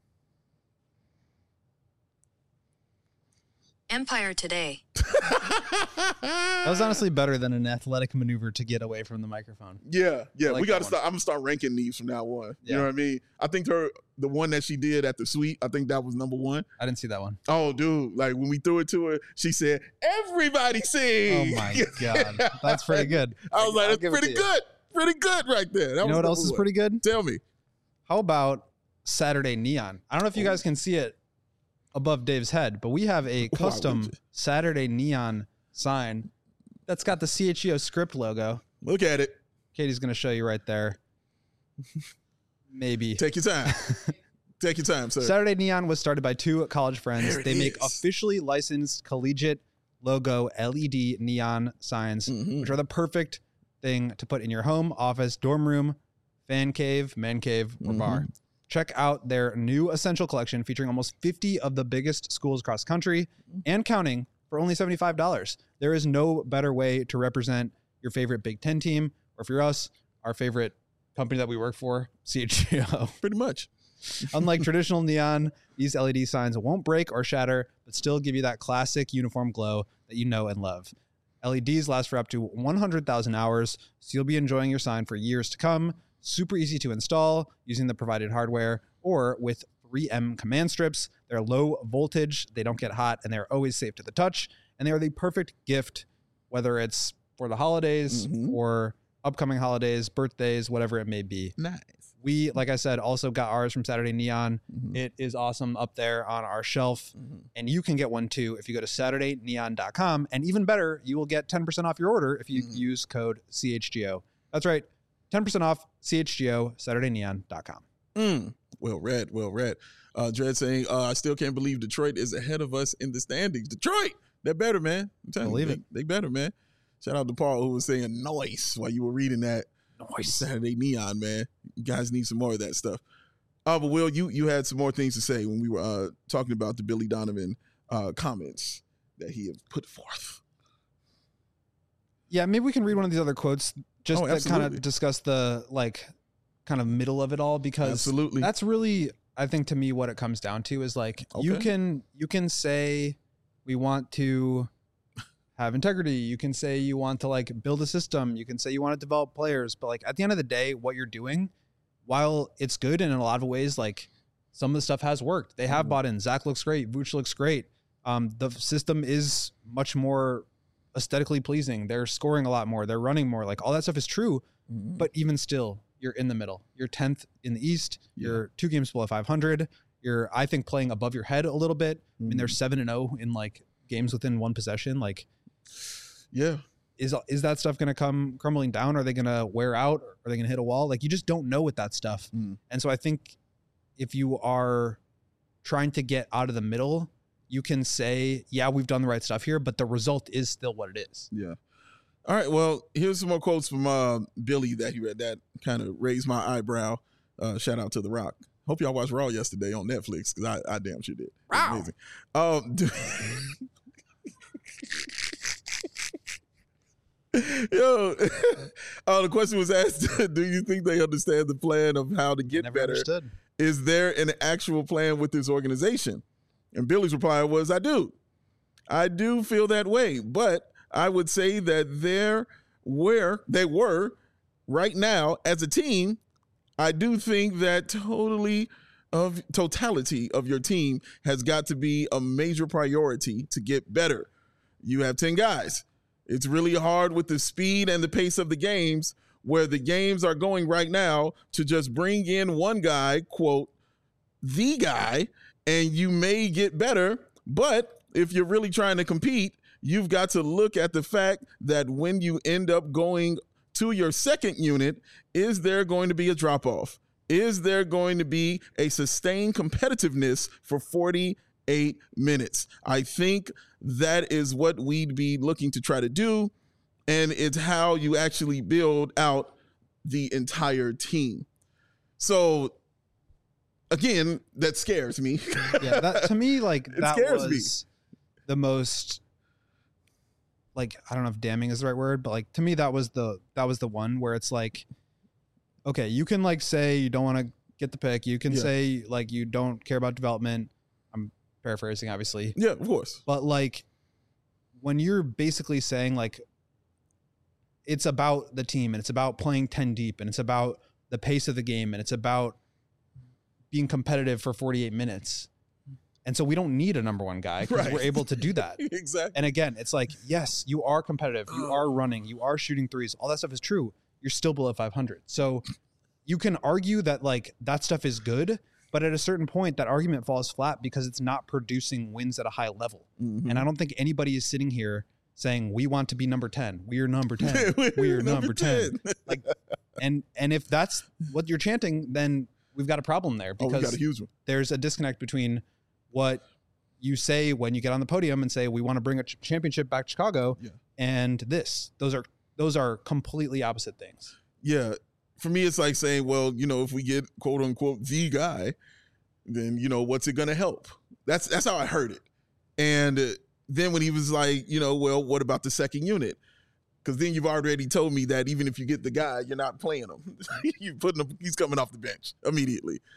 Speaker 4: Empire Today.
Speaker 2: That was honestly better than an athletic maneuver to get away from the microphone.
Speaker 1: Yeah.
Speaker 2: Like
Speaker 1: We got to start. I'm gonna start ranking these from now on.
Speaker 2: Yeah.
Speaker 1: You know what I mean? I think the one that she did at the suite, I think that was number one.
Speaker 2: I didn't see that one.
Speaker 1: Oh, dude! Like when we threw it to her, she said, "Everybody sing."
Speaker 2: Oh my god, that's pretty good.
Speaker 1: I was like,
Speaker 2: I'll
Speaker 1: "That's
Speaker 2: give it
Speaker 1: pretty
Speaker 2: to you.
Speaker 1: good, pretty good right there." That
Speaker 2: You know what else is pretty good?
Speaker 1: Tell me.
Speaker 2: How about Saturday Neon? I don't know if you guys can see it above Dave's head, but we have a custom Saturday Neon sign that's got the CHGO script logo.
Speaker 1: Look at it.
Speaker 2: Katie's going to show you right there. Maybe.
Speaker 1: Take your time. Take your time, sir.
Speaker 2: Saturday Neon was started by two college friends.
Speaker 1: There it
Speaker 2: They make
Speaker 1: is.
Speaker 2: officially licensed collegiate logo LED neon signs, which are the perfect thing to put in your home, office, dorm room, fan cave, man cave, or bar. Check out their new Essential Collection featuring almost 50 of the biggest schools across the country and counting for only $75. There is no better way to represent your favorite Big Ten team, or if you're us, our favorite company that we work for, CHGO.
Speaker 1: Pretty much.
Speaker 2: Unlike traditional neon, these LED signs won't break or shatter, but still give you that classic uniform glow that you know and love. LEDs last for up to 100,000 hours, so you'll be enjoying your sign for years to come. Super easy to install using the provided hardware or with 3M command strips. They're low voltage, they don't get hot, and they're always safe to the touch. And they are the perfect gift, whether it's for the holidays or upcoming holidays, birthdays, whatever it may be.
Speaker 1: Nice.
Speaker 2: We, like I said, also got ours from Saturday Neon. It is awesome up there on our shelf. And you can get one too if you go to SaturdayNeon.com. And even better, you will get 10% off your order if you use code CHGO. That's right. 10% off CHGO, SaturdayNeon.com.
Speaker 1: Well read, well read. Dredd saying, I still can't believe Detroit is ahead of us in the standings. Detroit, they're better, man. I'm telling
Speaker 2: Believe
Speaker 1: you,
Speaker 2: it.
Speaker 1: they better, man. Shout out to Paul who was saying noise while you were reading that.
Speaker 2: Nice.
Speaker 1: Saturday Neon, man. You guys need some more of that stuff. But Will, you had some more things to say when we were talking about the Billy Donovan comments that he had put forth.
Speaker 2: Yeah, maybe we can read one of these other quotes just that kind
Speaker 1: absolutely.
Speaker 2: of discuss the kind of middle of it all, because
Speaker 1: Absolutely.
Speaker 2: that's really, I think, to me what it comes down to is you can say we want to have integrity, you can say you want to build a system, you can say you want to develop players, but at the end of the day, what you're doing, while it's good and in a lot of ways some of the stuff has worked, they have bought in. Zach looks great, Vooch looks great, the system is much more aesthetically pleasing, they're scoring a lot more, they're running more, all that stuff is true. But even still, you're in the middle. You're 10th in the East. You're 2 games below 500. You're, I think, playing above your head a little bit. I mean, they're 7-0 in games within one possession.
Speaker 1: Yeah.
Speaker 2: Is that stuff going to come crumbling down? Are they going to wear out? Are they going to hit a wall? You just don't know with that stuff. And so I think if you are trying to get out of the middle, you can say, yeah, we've done the right stuff here, but the result is still what it is.
Speaker 1: Yeah. All right. Well, here's some more quotes from Billy that he read that kind of raised my eyebrow. Shout out to The Rock. Hope y'all watched Raw yesterday on Netflix because I damn sure did.
Speaker 2: Wow.
Speaker 1: Amazing. Yo, the question was asked, do you think they understand the plan of how to get
Speaker 2: Never
Speaker 1: better?
Speaker 2: understood.
Speaker 1: Is there an actual plan with this organization? And Billy's reply was, I do. I do feel that way, but I would say that they were right now as a team. I do think that totality of your team has got to be a major priority to get better. You have 10 guys. It's really hard with the speed and the pace of the games where the games are going right now to just bring in one guy, quote, the guy, and you may get better. But if you're really trying to compete, you've got to look at the fact that when you end up going to your second unit, is there going to be a drop-off? Is there going to be a sustained competitiveness for 48 minutes? I think that is what we'd be looking to try to do, and it's how you actually build out the entire team. So, again, that scares me.
Speaker 2: Yeah, that to me, that
Speaker 1: scares
Speaker 2: was the most, I don't know if damning is the right word, but to me that was the one where it's okay, you can say you don't want to get the pick, you can say you don't care about development. I'm paraphrasing, obviously.
Speaker 1: Yeah, of course.
Speaker 2: But when you're basically saying it's about the team and it's about playing 10 deep and it's about the pace of the game and it's about being competitive for 48 minutes. And so we don't need a number one guy because we're able to do that.
Speaker 1: Exactly.
Speaker 2: And again, it's yes, you are competitive. You are running. You are shooting threes. All that stuff is true. You're still below 500. So you can argue that that stuff is good, but at a certain point, that argument falls flat because it's not producing wins at a high level. And I don't think anybody is sitting here saying, we want to be number 10. We are number 10. We are number 10. And if that's what you're chanting, then we've got a problem there because
Speaker 1: we got a huge one.
Speaker 2: There's a disconnect between what you say when you get on the podium and say, we want to bring a championship back to Chicago and this. Those are completely opposite things.
Speaker 1: Yeah. For me, it's saying, well, if we get quote unquote the guy, then, what's it going to help? That's how I heard it. And then when he was well, what about the second unit? Because then you've already told me that even if you get the guy, you're not playing him. He's coming off the bench immediately.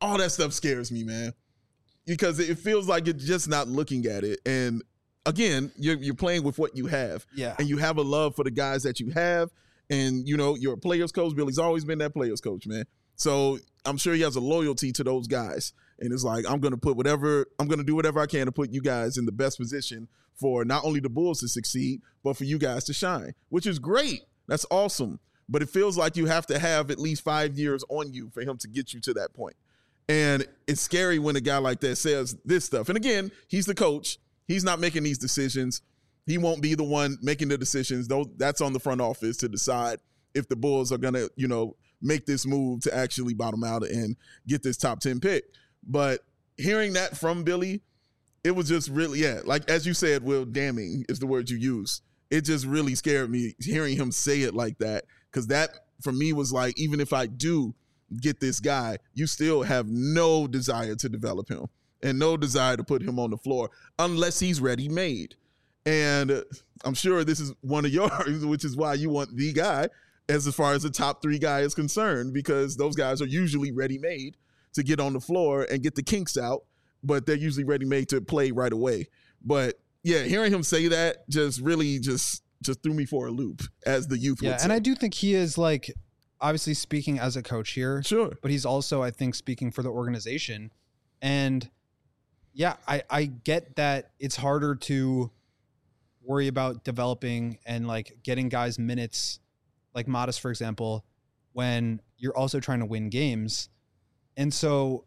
Speaker 1: all that stuff scares me, man, because it feels like you're just not looking at it. And again, you're playing with what you have.
Speaker 2: Yeah.
Speaker 1: And you have a love for the guys that you have. And, you know, you're a players coach. Billy's always been that players coach, man. So I'm sure he has a loyalty to those guys. And it's like, I'm going to do whatever I can to put you guys in the best position for not only the Bulls to succeed, but for you guys to shine, which is great. That's awesome. But it feels like you have to have at least 5 years on you for him to get you to that point. And it's scary when a guy like that says this stuff. And again, he's the coach. He's not making these decisions. He won't be the one making the decisions. Though that's on the front office to decide if the Bulls are going to, you know, make this move to actually bottom out and get this top 10 pick. But hearing that from Billy, it was just really, like as you said, Will, damning is the word you use. It just really scared me hearing him say it like that, because that for me was like, even if I do get this guy, you still have no desire to develop him and no desire to put him on the floor unless he's ready-made. And I'm sure this is one of yours, which is why you want the guy as far as the top 3 guy is concerned, because those guys are usually ready-made to get on the floor and get the kinks out, but they're usually ready-made to play right away. But yeah, hearing him say that just really just threw me for a loop, as the youth would say.
Speaker 2: And I do think he is, like, obviously speaking as a coach here.
Speaker 1: Sure.
Speaker 2: But he's also, I think, speaking for the organization. And yeah, I get that it's harder to worry about developing and like getting guys minutes, like Modest, for example, when you're also trying to win games. And so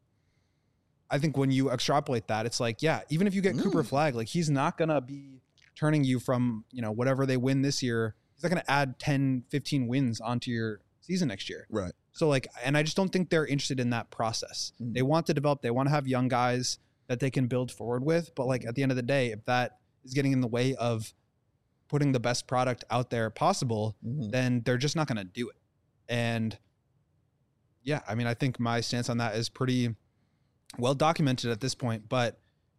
Speaker 2: I think when you extrapolate that, it's like, yeah, even if you get Cooper Flagg, like he's not going to be turning you from, you know, whatever they win this year. He's not going to add 10, 15 wins onto your season next year.
Speaker 1: Right.
Speaker 2: So like, and I just don't think they're interested in that process. They want to develop, they want to have young guys that they can build forward with. But like at the end of the day, if that is getting in the way of putting the best product out there possible, then they're just not going to do it. And yeah, I mean, I think my stance on that is pretty well documented at this point. But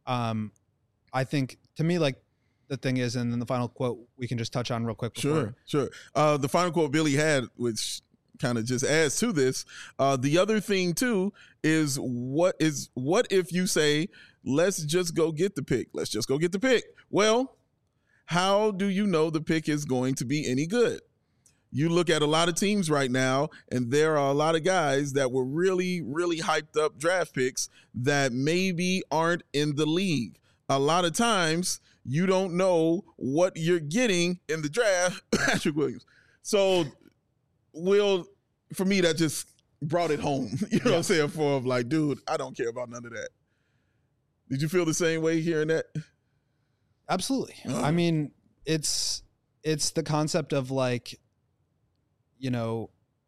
Speaker 2: I think to me, like the thing is, and then the final quote we can just touch on real quick.
Speaker 1: Sure. The final quote Billy had, which kind of just adds to this. The other thing too is what if you say, let's just go get the pick. Let's just go get the pick. Well, how do you know the pick is going to be any good? You look at a lot of teams right now, and there are a lot of guys that were really, really hyped up draft picks that maybe aren't in the league. A lot of times you don't know what you're getting in the draft. Patrick Williams. So Will, for me, that just brought it home. You know what I'm saying? For like, dude, I don't care about none of that. Did you feel the same way hearing that?
Speaker 2: Absolutely. I mean, it's the concept of like, you know,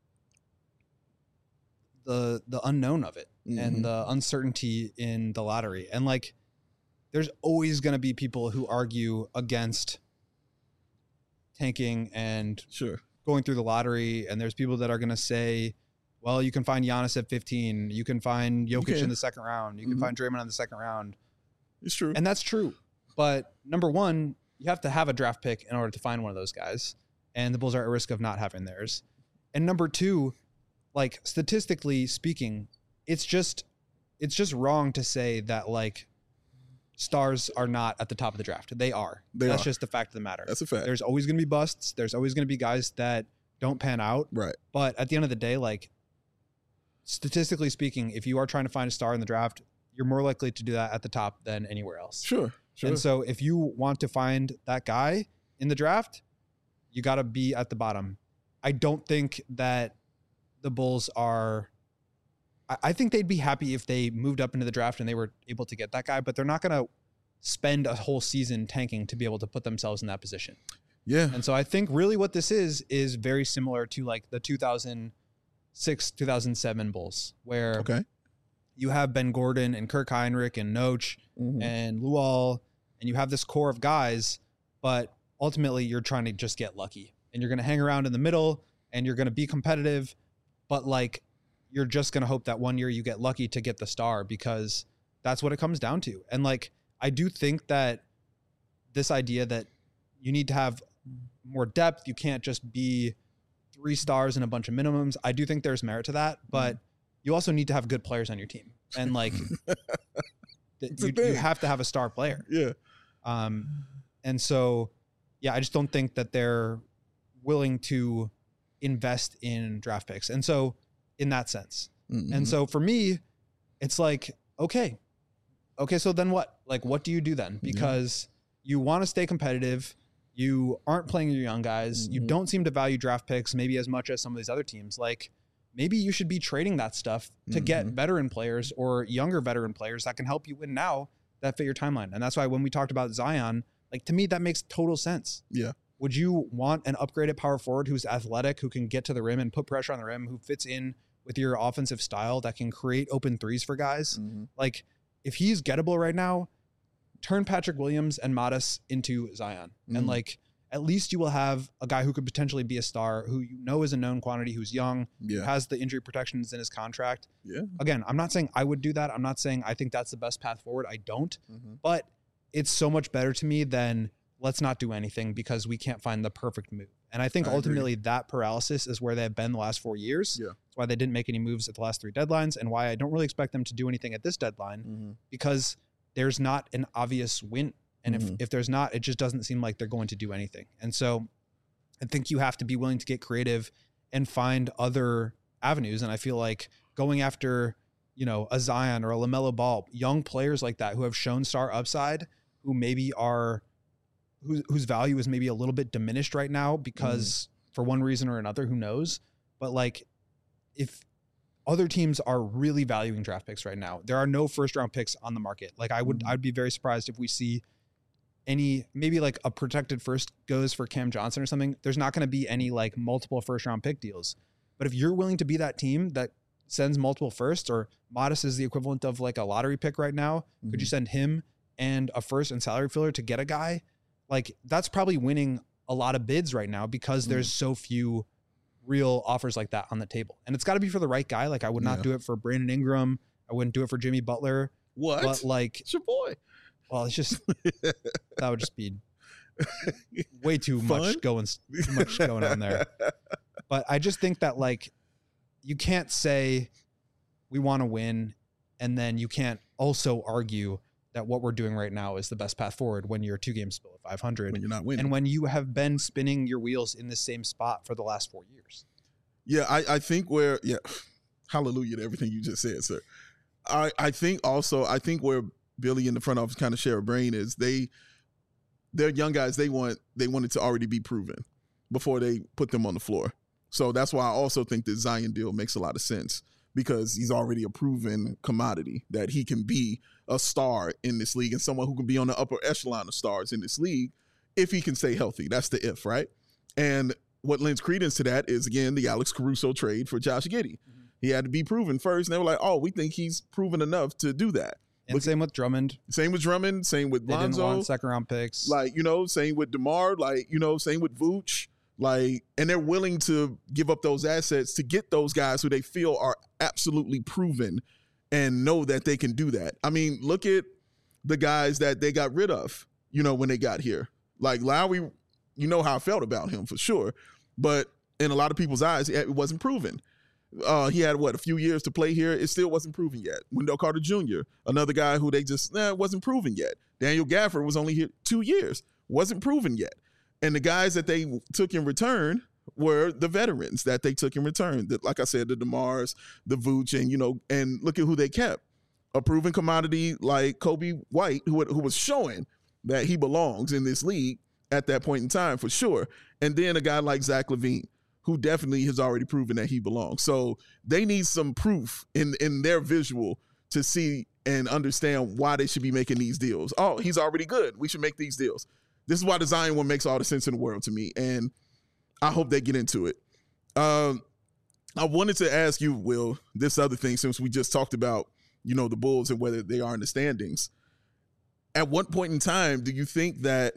Speaker 2: the unknown of it and the uncertainty in the lottery. And like, there's always going to be people who argue against tanking and going through the lottery. And there's people that are going to say, well, you can find Giannis at 15. You can find Jokic in the second round. You can find Draymond in the second round.
Speaker 1: It's true.
Speaker 2: And that's true. But number one, you have to have a draft pick in order to find one of those guys. And the Bulls are at risk of not having theirs. And number two, like statistically speaking, it's just wrong to say that like stars are not at the top of the draft. They are. That's just the fact of the matter.
Speaker 1: That's a fact.
Speaker 2: There's always going to be busts. There's always going to be guys that don't pan out.
Speaker 1: Right.
Speaker 2: But at the end of the day, like statistically speaking, if you are trying to find a star in the draft, you're more likely to do that at the top than anywhere else.
Speaker 1: Sure.
Speaker 2: And so if you want to find that guy in the draft, you got to be at the bottom. I don't think that the Bulls are, I think they'd be happy if they moved up into the draft and they were able to get that guy, but they're not going to spend a whole season tanking to be able to put themselves in that position.
Speaker 1: Yeah.
Speaker 2: And so I think really what this is very similar to like the 2006, 2007 Bulls, where you have Ben Gordon and Kirk Heinrich and Noach and Luol, and you have this core of guys, but ultimately you're trying to just get lucky and you're going to hang around in the middle and you're going to be competitive, but like you're just going to hope that one year you get lucky to get the star, because that's what it comes down to. And like, I do think that this idea that you need to have more depth, you can't just be 3 stars and a bunch of minimums. I do think there's merit to that, but you also need to have good players on your team. And like, you have to have a star player.
Speaker 1: Yeah.
Speaker 2: And so, yeah, I just don't think that they're willing to invest in draft picks. And so in that sense, and so for me, it's like, okay, so then what? Like, what do you do then? Because you want to stay competitive. You aren't playing your young guys. You don't seem to value draft picks maybe as much as some of these other teams. Like, maybe you should be trading that stuff to get veteran players or younger veteran players that can help you win now that fit your timeline. And that's why when we talked about Zion, like, to me, that makes total sense.
Speaker 1: Yeah.
Speaker 2: Would you want an upgraded power forward who's athletic, who can get to the rim and put pressure on the rim, who fits in with your offensive style, that can create open threes for guys? Like, if he's gettable right now, turn Patrick Williams and Modest into Zion. And like, at least you will have a guy who could potentially be a star, who you know is a known quantity, who's young, who has the injury protections in his contract.
Speaker 1: Yeah.
Speaker 2: Again, I'm not saying I would do that. I'm not saying I think that's the best path forward. I don't. But it's so much better to me than let's not do anything because we can't find the perfect move. And I think ultimately that paralysis is where they've been the last 4 years.
Speaker 1: Yeah.
Speaker 2: That's why they didn't make any moves at the last 3 deadlines, and why I don't really expect them to do anything at this deadline, because there's not an obvious win. And if there's not, it just doesn't seem like they're going to do anything. And so I think you have to be willing to get creative and find other avenues. And I feel like going after, you know, a Zion or a LaMelo Ball, young players like that who have shown star upside, who maybe are, whose value is maybe a little bit diminished right now because for one reason or another, who knows? But like, if other teams are really valuing draft picks right now, there are no first round picks on the market. Like, I'd be very surprised if we see any, maybe like a protected first goes for Cam Johnson or something. There's not going to be any like multiple first round pick deals. But if you're willing to be that team that sends multiple firsts, or Modest is the equivalent of like a lottery pick right now, could you send him and a first and salary filler to get a guy? Like, that's probably winning a lot of bids right now because there's so few real offers like that on the table. And it's got to be for the right guy. Like, I would not do it for Brandon Ingram. I wouldn't do it for Jimmy Butler.
Speaker 1: What?
Speaker 2: But like,
Speaker 1: it's your boy.
Speaker 2: Well, it's just, that would just be way too much going on there. But I just think that, like, you can't say we want to win and then you can't also argue that what we're doing right now is the best path forward when you're 2 games below 500.
Speaker 1: When you're not winning.
Speaker 2: And when you have been spinning your wheels in the same spot for the last 4 years.
Speaker 1: Yeah, I think hallelujah to everything you just said, sir. I think where Billy and the front office kind of share a brain is they're young guys. They wanted to already be proven before they put them on the floor. So that's why I also think the Zion deal makes a lot of sense, because he's already a proven commodity that he can be a star in this league and someone who can be on the upper echelon of stars in this league if he can stay healthy. That's the if, right? And what lends credence to that is, again, the Alex Caruso trade for Josh Giddey. He had to be proven first, and they were like, oh, we think he's proven enough to do that.
Speaker 2: And same with Drummond.
Speaker 1: Same with Lonzo.
Speaker 2: They didn't want second-round picks.
Speaker 1: Like, same with DeMar. Like, same with Vooch. Like, and they're willing to give up those assets to get those guys who they feel are absolutely proven and know that they can do that. I mean, look at the guys that they got rid of, when they got here. Like Lowry, you know how I felt about him for sure. But in a lot of people's eyes, it wasn't proven. He had, a few years to play here. It still wasn't proven yet. Wendell Carter Jr., another guy who they just, wasn't proven yet. Daniel Gafford was only here 2 years. Wasn't proven yet. And the guys that they took in return were the veterans that they took in return. Like I said, the DeMars, the Vooch, and, and look at who they kept. A proven commodity like Kobe White, who was showing that he belongs in this league at that point in time for sure. And then a guy like Zach LaVine, who definitely has already proven that he belongs. So they need some proof in their visual to see and understand why they should be making these deals. Oh, he's already good. We should make these deals. This is why the Zion one makes all the sense in the world to me, and I hope they get into it. I wanted to ask you, Will, this other thing, since we just talked about, the Bulls and whether they are in the standings. At what point in time do you think that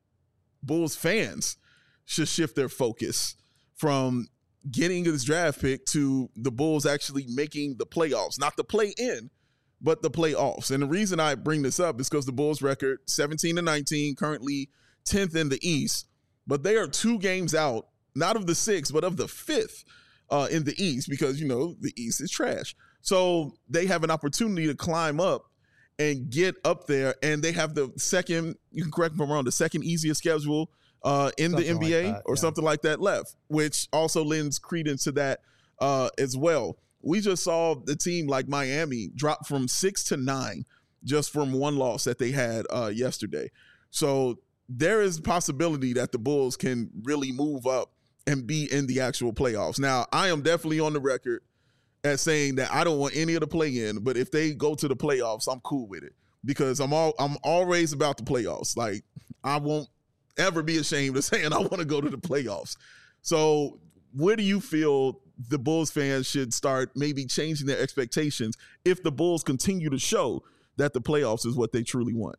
Speaker 1: Bulls fans should shift their focus from getting this draft pick to the Bulls actually making the playoffs? Not the play-in, but the playoffs. And the reason I bring this up is because the Bulls record 17-19, currently 10th in the East, but they are 2 games out, not of the 6th, but of the 5th in the East, because, the East is trash. So they have an opportunity to climb up and get up there, and they have the second, you can correct me if I'm wrong, the second easiest schedule in the
Speaker 2: Something like
Speaker 1: NBA
Speaker 2: that,
Speaker 1: or
Speaker 2: yeah.
Speaker 1: something like that left, which also lends credence to that as well. We just saw the team like Miami drop from 6 to 9 just from one loss that they had yesterday. So there is a possibility that the Bulls can really move up and be in the actual playoffs. Now, I am definitely on the record as saying that I don't want any of the play-in, but if they go to the playoffs, I'm cool with it because I'm always about the playoffs. Like, I won't ever be ashamed of saying I want to go to the playoffs. So where do you feel the Bulls fans should start maybe changing their expectations if the Bulls continue to show that the playoffs is what they truly want?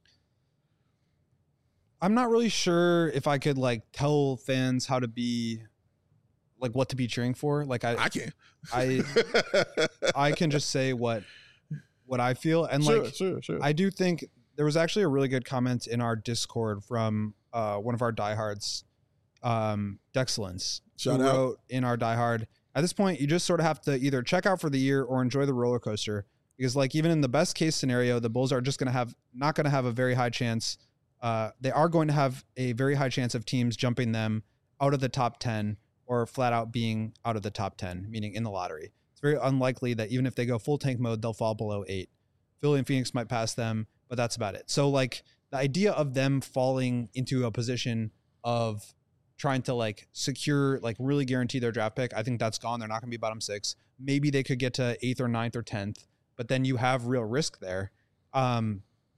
Speaker 2: I'm not really sure if I could like tell fans how to be like what to be cheering for. Like I
Speaker 1: can.
Speaker 2: I can just say what I feel. And
Speaker 1: Sure.
Speaker 2: I do think there was actually a really good comment in our Discord from one of our diehards, Dexcellence,
Speaker 1: Shout
Speaker 2: who
Speaker 1: out.
Speaker 2: wrote in our diehard. At this point, you just sort of have to either check out for the year or enjoy the roller coaster because, like, even in the best case scenario, the Bulls are just not going to have a very high chance. They are going to have a very high chance of teams jumping them out of the top 10 or flat out being out of the top 10, meaning in the lottery. It's very unlikely that even if they go full tank mode, they'll fall below 8. Philly and Phoenix might pass them, but that's about it. So, like, the idea of them falling into a position of trying to like secure, like really guarantee their draft pick, I think that's gone. They're not going to be bottom 6. Maybe they could get to 8th or 9th or 10th, but then you have real risk there. I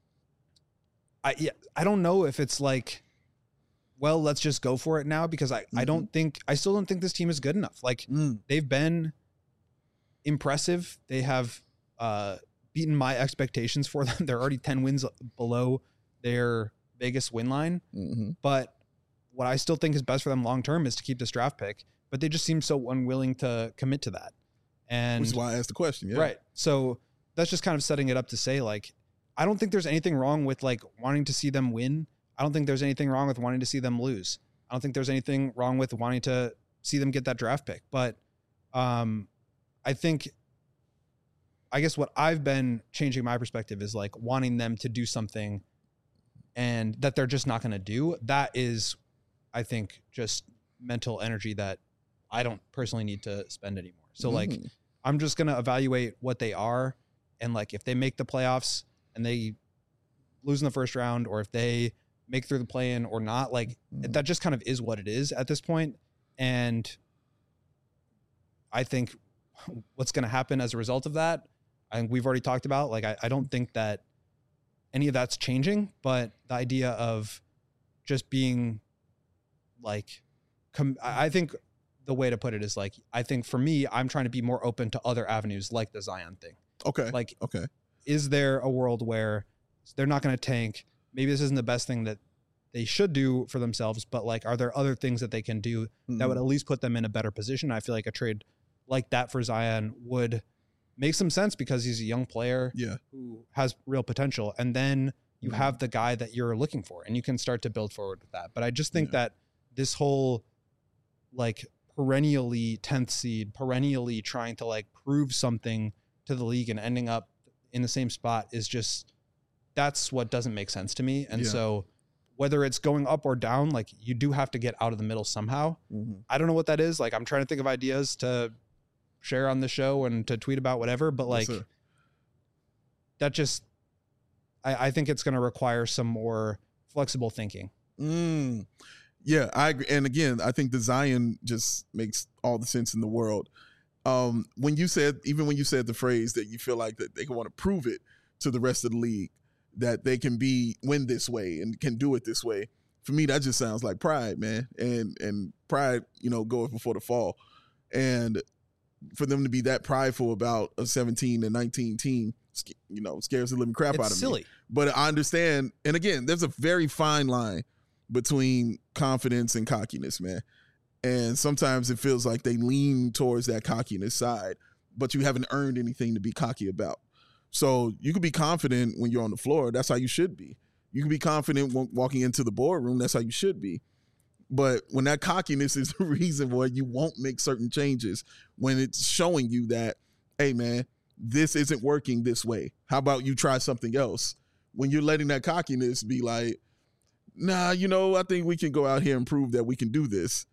Speaker 2: don't know if it's like, well, let's just go for it now because I still don't think this team is good enough. Like they've been impressive. They have beaten my expectations for them. They're already 10 wins below their Vegas win line, but what I still think is best for them long-term is to keep this draft pick, but they just seem so unwilling to commit to that. And
Speaker 1: which is why I asked the question. Yeah.
Speaker 2: Right. So that's just kind of setting it up to say, like, I don't think there's anything wrong with like wanting to see them win. I don't think there's anything wrong with wanting to see them lose. I don't think there's anything wrong with wanting to see them get that draft pick. But I guess what I've been changing my perspective is like wanting them to do something and that they're just not going to do. That is, I think, just mental energy that I don't personally need to spend anymore. So like, I'm just going to evaluate what they are. And like, if they make the playoffs and they lose in the first round, or if they make through the play-in or not, like that just kind of is what it is at this point. And I think what's going to happen as a result of that, I think we've already talked about, like, I don't think that any of that's changing, but the idea of just being like, I think the way to put it is like, I think for me, I'm trying to be more open to other avenues like the Zion thing.
Speaker 1: Okay.
Speaker 2: Like,
Speaker 1: okay.
Speaker 2: Is there a world where they're not going to tank? Maybe this isn't the best thing that they should do for themselves, but like, are there other things that they can do that would at least put them in a better position? I feel like a trade like that for Zion would make some sense because he's a young player who has real potential. And then you have the guy that you're looking for and you can start to build forward with that. But I just think that this whole like perennially 10th seed, perennially trying to like prove something to the league and ending up in the same spot is just, that's what doesn't make sense to me. And so whether it's going up or down, like you do have to get out of the middle somehow. I don't know what that is. Like, I'm trying to think of ideas to share on the show and to tweet about whatever, but like that just, I think it's going to require some more flexible thinking.
Speaker 1: Yeah, I agree. And again, I think the Zion just makes all the sense in the world. When you said the phrase that you feel like that they want to prove it to the rest of the league that they can win this way and can do it this way, for me, that just sounds like pride, man. And pride, goeth before the fall. And for them to be that prideful about a 17 and 19 team, scares the living crap out of me.
Speaker 2: Silly.
Speaker 1: But I understand. And again, there's a very fine line between confidence and cockiness, man. And sometimes it feels like they lean towards that cockiness side, but you haven't earned anything to be cocky about. So you can be confident when you're on the floor. That's how you should be. You can be confident walking into the boardroom. That's how you should be. But when that cockiness is the reason why you won't make certain changes, when it's showing you that hey, man, this isn't working this way. How about you try something else? When you're letting that cockiness be like, nah, I think we can go out here and prove that we can do this.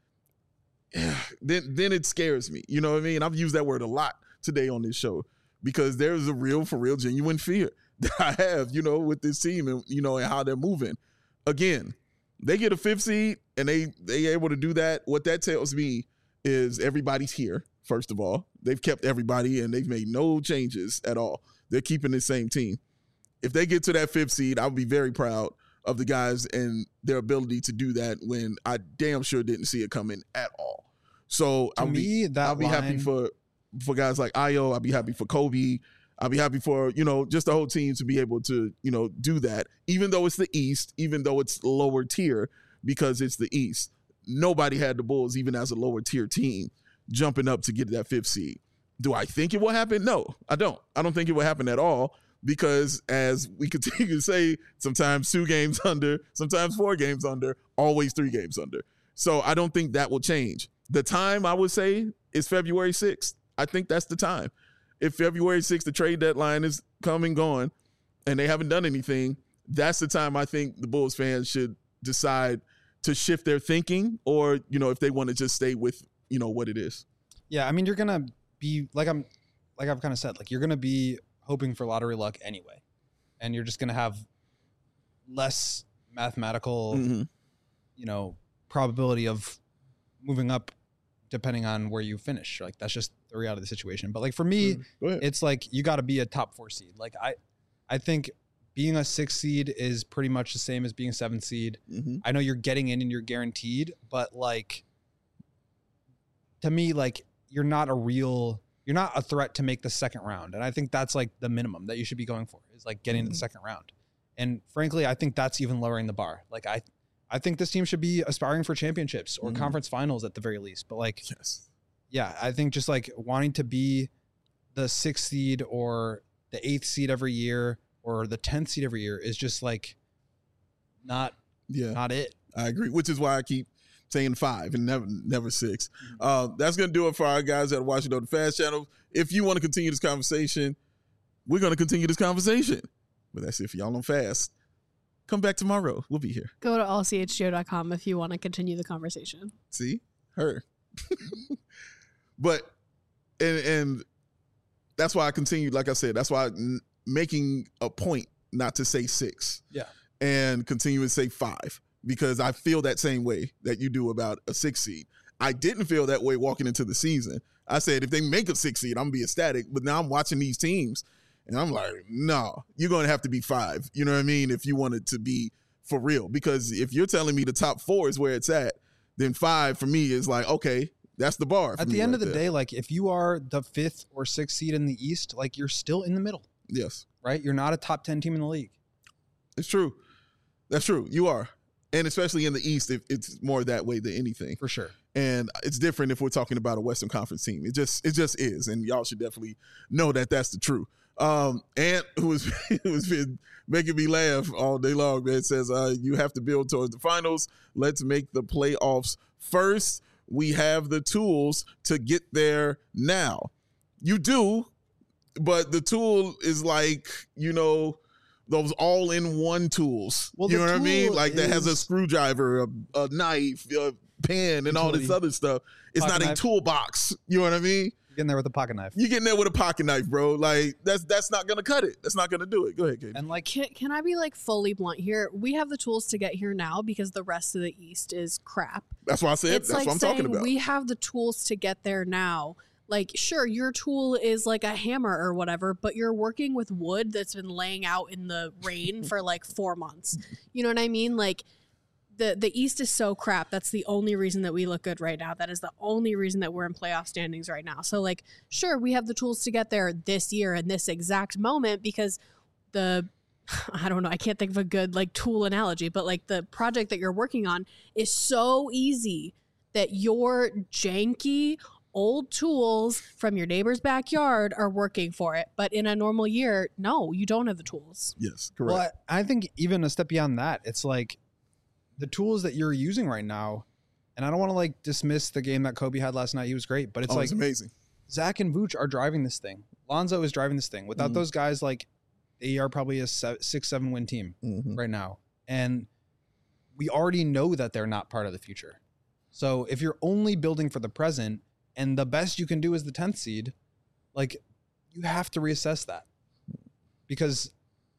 Speaker 1: Then it scares me. You know what I mean? I've used that word a lot today on this show because there's a real, for real, genuine fear that I have, with this team and, and how they're moving. Again, they get a 5th seed and they able to do that. What that tells me is everybody's here, first of all. They've kept everybody and they've made no changes at all. They're keeping the same team. If they get to that 5th seed, I'll be very proud of the guys and their ability to do that when I damn sure didn't see it coming at all. So I'll be happy for guys like Ayo. I'll be happy for Kobe. I'll be happy for, just the whole team to be able to, do that, even though it's the East, even though it's lower tier, because it's the East. Nobody had the Bulls, even as a lower tier team, jumping up to get that 5th seed. Do I think it will happen? No, I don't. I don't think it will happen at all because as we continue to say, sometimes 2 games under, sometimes 4 games under, always 3 games under. So I don't think that will change. The time I would say is February 6th. I think that's the time. If February 6th, the trade deadline is come and gone and they haven't done anything, that's the time I think the Bulls fans should decide to shift their thinking or, if they want to just stay with, what it is.
Speaker 2: Yeah, I mean, you're going to be, like I've kind of said, like you're going to be hoping for lottery luck anyway. And you're just going to have less mathematical, probability of moving up depending on where you finish. Like that's just the reality of the situation. But like for me, it's like you got to be a top 4 seed. Like I think being a 6th seed is pretty much the same as being a 7th seed. Mm-hmm. I know you're getting in and you're guaranteed, but like to me, like you're not a threat to make the second round. And I think that's like the minimum that you should be going for is like getting to the second round. And frankly, I think that's even lowering the bar. Like I think this team should be aspiring for championships or conference finals at the very least. But like, yeah, I think just like wanting to be the 6th seed or the 8th seed every year or the 10th seed every year is just like not it.
Speaker 1: I agree, which is why I keep saying 5 and never 6. That's going to do it for our guys at Watching on the Fast Channel. If you want to continue this conversation, we're going to continue this conversation. But that's it for y'all on Fast. Come back tomorrow. We'll be here.
Speaker 3: Go to allchgo.com if you want to continue the conversation.
Speaker 1: See? Her. But, and that's why I continue, like I said, that's why I'm making a point not to say 6.
Speaker 2: Yeah.
Speaker 1: And continue to say 5. Because I feel that same way that you do about a 6 seed. I didn't feel that way walking into the season. I said, if they make a 6 seed, I'm going to be ecstatic. But now I'm watching these teams. And I'm like, no, you're going to have to be 5. You know what I mean? If you want it to be for real. Because if you're telling me the top 4 is where it's at, then 5 for me is like, okay, that's the bar.
Speaker 2: At the end of the day, like if you are the 5th or 6th seed in the East, like you're still in the middle.
Speaker 1: Yes.
Speaker 2: Right? You're not a top 10 team in the league.
Speaker 1: It's true. That's true. You are. And especially in the East, it's more that way than anything.
Speaker 2: For sure.
Speaker 1: And it's different if we're talking about a Western Conference team. It just is. And y'all should definitely know that that's the truth. Ant, who's been making me laugh all day long, man, says you have to build towards the finals. Let's make the playoffs first. We have the tools to get there now. You do, but the tool is like, those all-in-one tools. Well, you know what I mean? Like that has a screwdriver, a knife, a pen, and all this other stuff. It's not a toolbox. You know what I mean?
Speaker 2: Getting there with a pocket knife.
Speaker 1: You're getting there with a pocket knife, bro. Like that's not gonna cut it. That's not gonna do it. Go ahead, Katie.
Speaker 3: And like, can I be like fully blunt here? We have the tools to get here now because the rest of the East is crap.
Speaker 1: That's why I said. That's
Speaker 3: like
Speaker 1: what I'm talking about.
Speaker 3: We have the tools to get there now. Like, sure, your tool is like a hammer or whatever, but you're working with wood that's been laying out in the rain for like 4 months. You know what I mean? Like, the East is so crap. That's the only reason that we look good right now. That is the only reason that we're in playoff standings right now. So, like, sure, we have the tools to get there this year in this exact moment because I don't know, I can't think of a good, like, tool analogy, but, like, the project that you're working on is so easy that your janky old tools from your neighbor's backyard are working for it. But in a normal year, no, you don't have the tools.
Speaker 1: Yes, correct.
Speaker 2: Well, I think even a step beyond that, it's like the tools that you're using right now, and I don't want to like dismiss the game that Kobe had last night. He was great, but it's like
Speaker 1: amazing.
Speaker 2: Zach and Vooch are driving this thing. Lonzo is driving this thing. Without
Speaker 1: Mhm.
Speaker 2: those guys, like they are probably a 6-7 win team right now. And we already know that they're not part of the future. So if you're only building for the present and the best you can do is the 10th seed, like you have to reassess that, because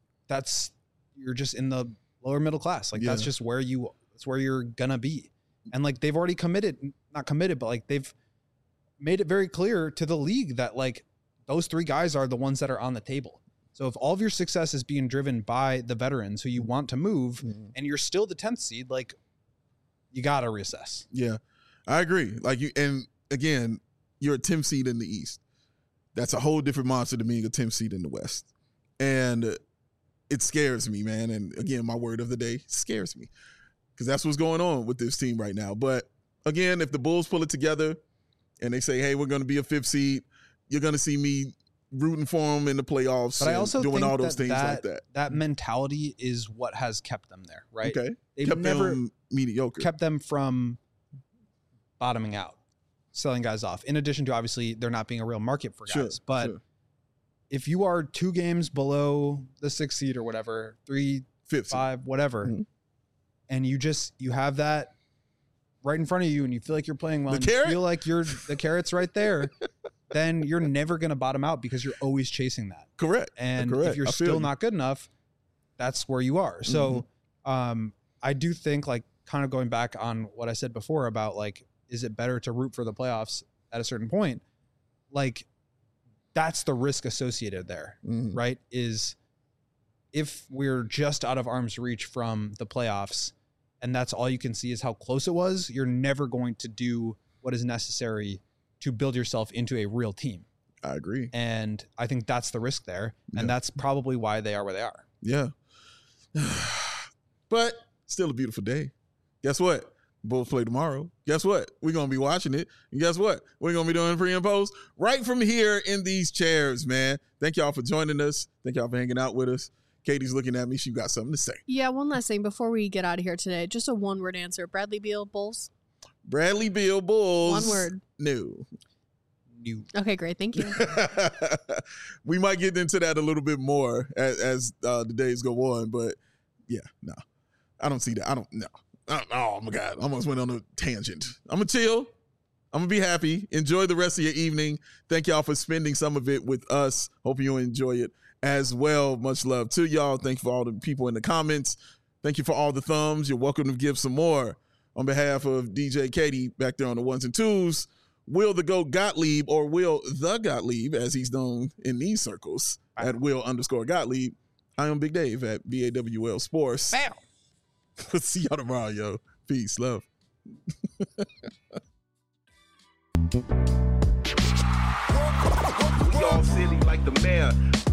Speaker 2: you're just in the lower middle class. Like that's just where you're gonna be. And like they've already not committed, but like they've made it very clear to the league that like those three guys are the ones that are on the table. So if all of your success is being driven by the veterans who you want to move and you're still the 10th seed, like you got to reassess.
Speaker 1: Yeah, I agree. Like and again, you're a 10th seed in the East. That's a whole different monster than being a 10th seed in the West. And it scares me, man. And again, my word of the day, scares me, because that's what's going on with this team right now. But again, if the Bulls pull it together and they say, hey, we're going to be a 5th seed, you're going to see me rooting for them in the playoffs.
Speaker 2: But I also
Speaker 1: doing
Speaker 2: think
Speaker 1: all those things like that.
Speaker 2: That mentality is what has kept them there, right?
Speaker 1: Okay.
Speaker 2: They've
Speaker 1: kept
Speaker 2: never
Speaker 1: them mediocre.
Speaker 2: kept them from bottoming out, selling guys off. In addition to obviously there not being a real market for guys. But if you are 2 games below the 6th seed or whatever, 3, 5, whatever, and you have that right in front of you and you feel like you're playing well, and you feel like the carrot's right there, then you're never going to bottom out because you're always chasing that.
Speaker 1: Correct.
Speaker 2: And if you're still not good enough, that's where you are. So I do think, like, kind of going back on what I said before about, like, is it better to root for the playoffs at a certain point? Like, that's the risk associated there, right? Is if we're just out of arm's reach from the playoffs and that's all you can see is how close it was, you're never going to do what is necessary to build yourself into a real team.
Speaker 1: I agree.
Speaker 2: And I think that's the risk there. And that's probably why they are where they are.
Speaker 1: Yeah. But still a beautiful day. Guess what? Bulls play tomorrow. Guess what? We're going to be watching it. And guess what? We're going to be doing pre and post right from here in these chairs, man. Thank y'all for joining us. Thank y'all for hanging out with us. Katie's looking at me. She got something to say.
Speaker 3: Yeah, one last thing before we get out of here today. Just a one-word answer. Bradley Beal, Bulls?
Speaker 1: Bradley Beal, Bulls.
Speaker 3: One word.
Speaker 1: No.
Speaker 2: New.
Speaker 3: Okay, great. Thank you.
Speaker 1: We might get into that a little bit more as the days go on, but yeah, no. I don't see that. I don't know. Oh my God. I almost went on a tangent. I'm going to chill. I'm going to be happy. Enjoy the rest of your evening. Thank y'all for spending some of it with us. Hope you enjoy it as well. Much love to y'all. Thank you for all the people in the comments. Thank you for all the thumbs. You're welcome to give some more. On behalf of DJ Katie back there on the 1s and 2s, Will the GOAT Gottlieb, or Will the Gottlieb, as he's known in these circles, at Will_Gottlieb. I am Big Dave at BAWL Sports.
Speaker 2: Bam.
Speaker 1: See y'all tomorrow, yo. Peace, love.
Speaker 4: We all silly like the mayor.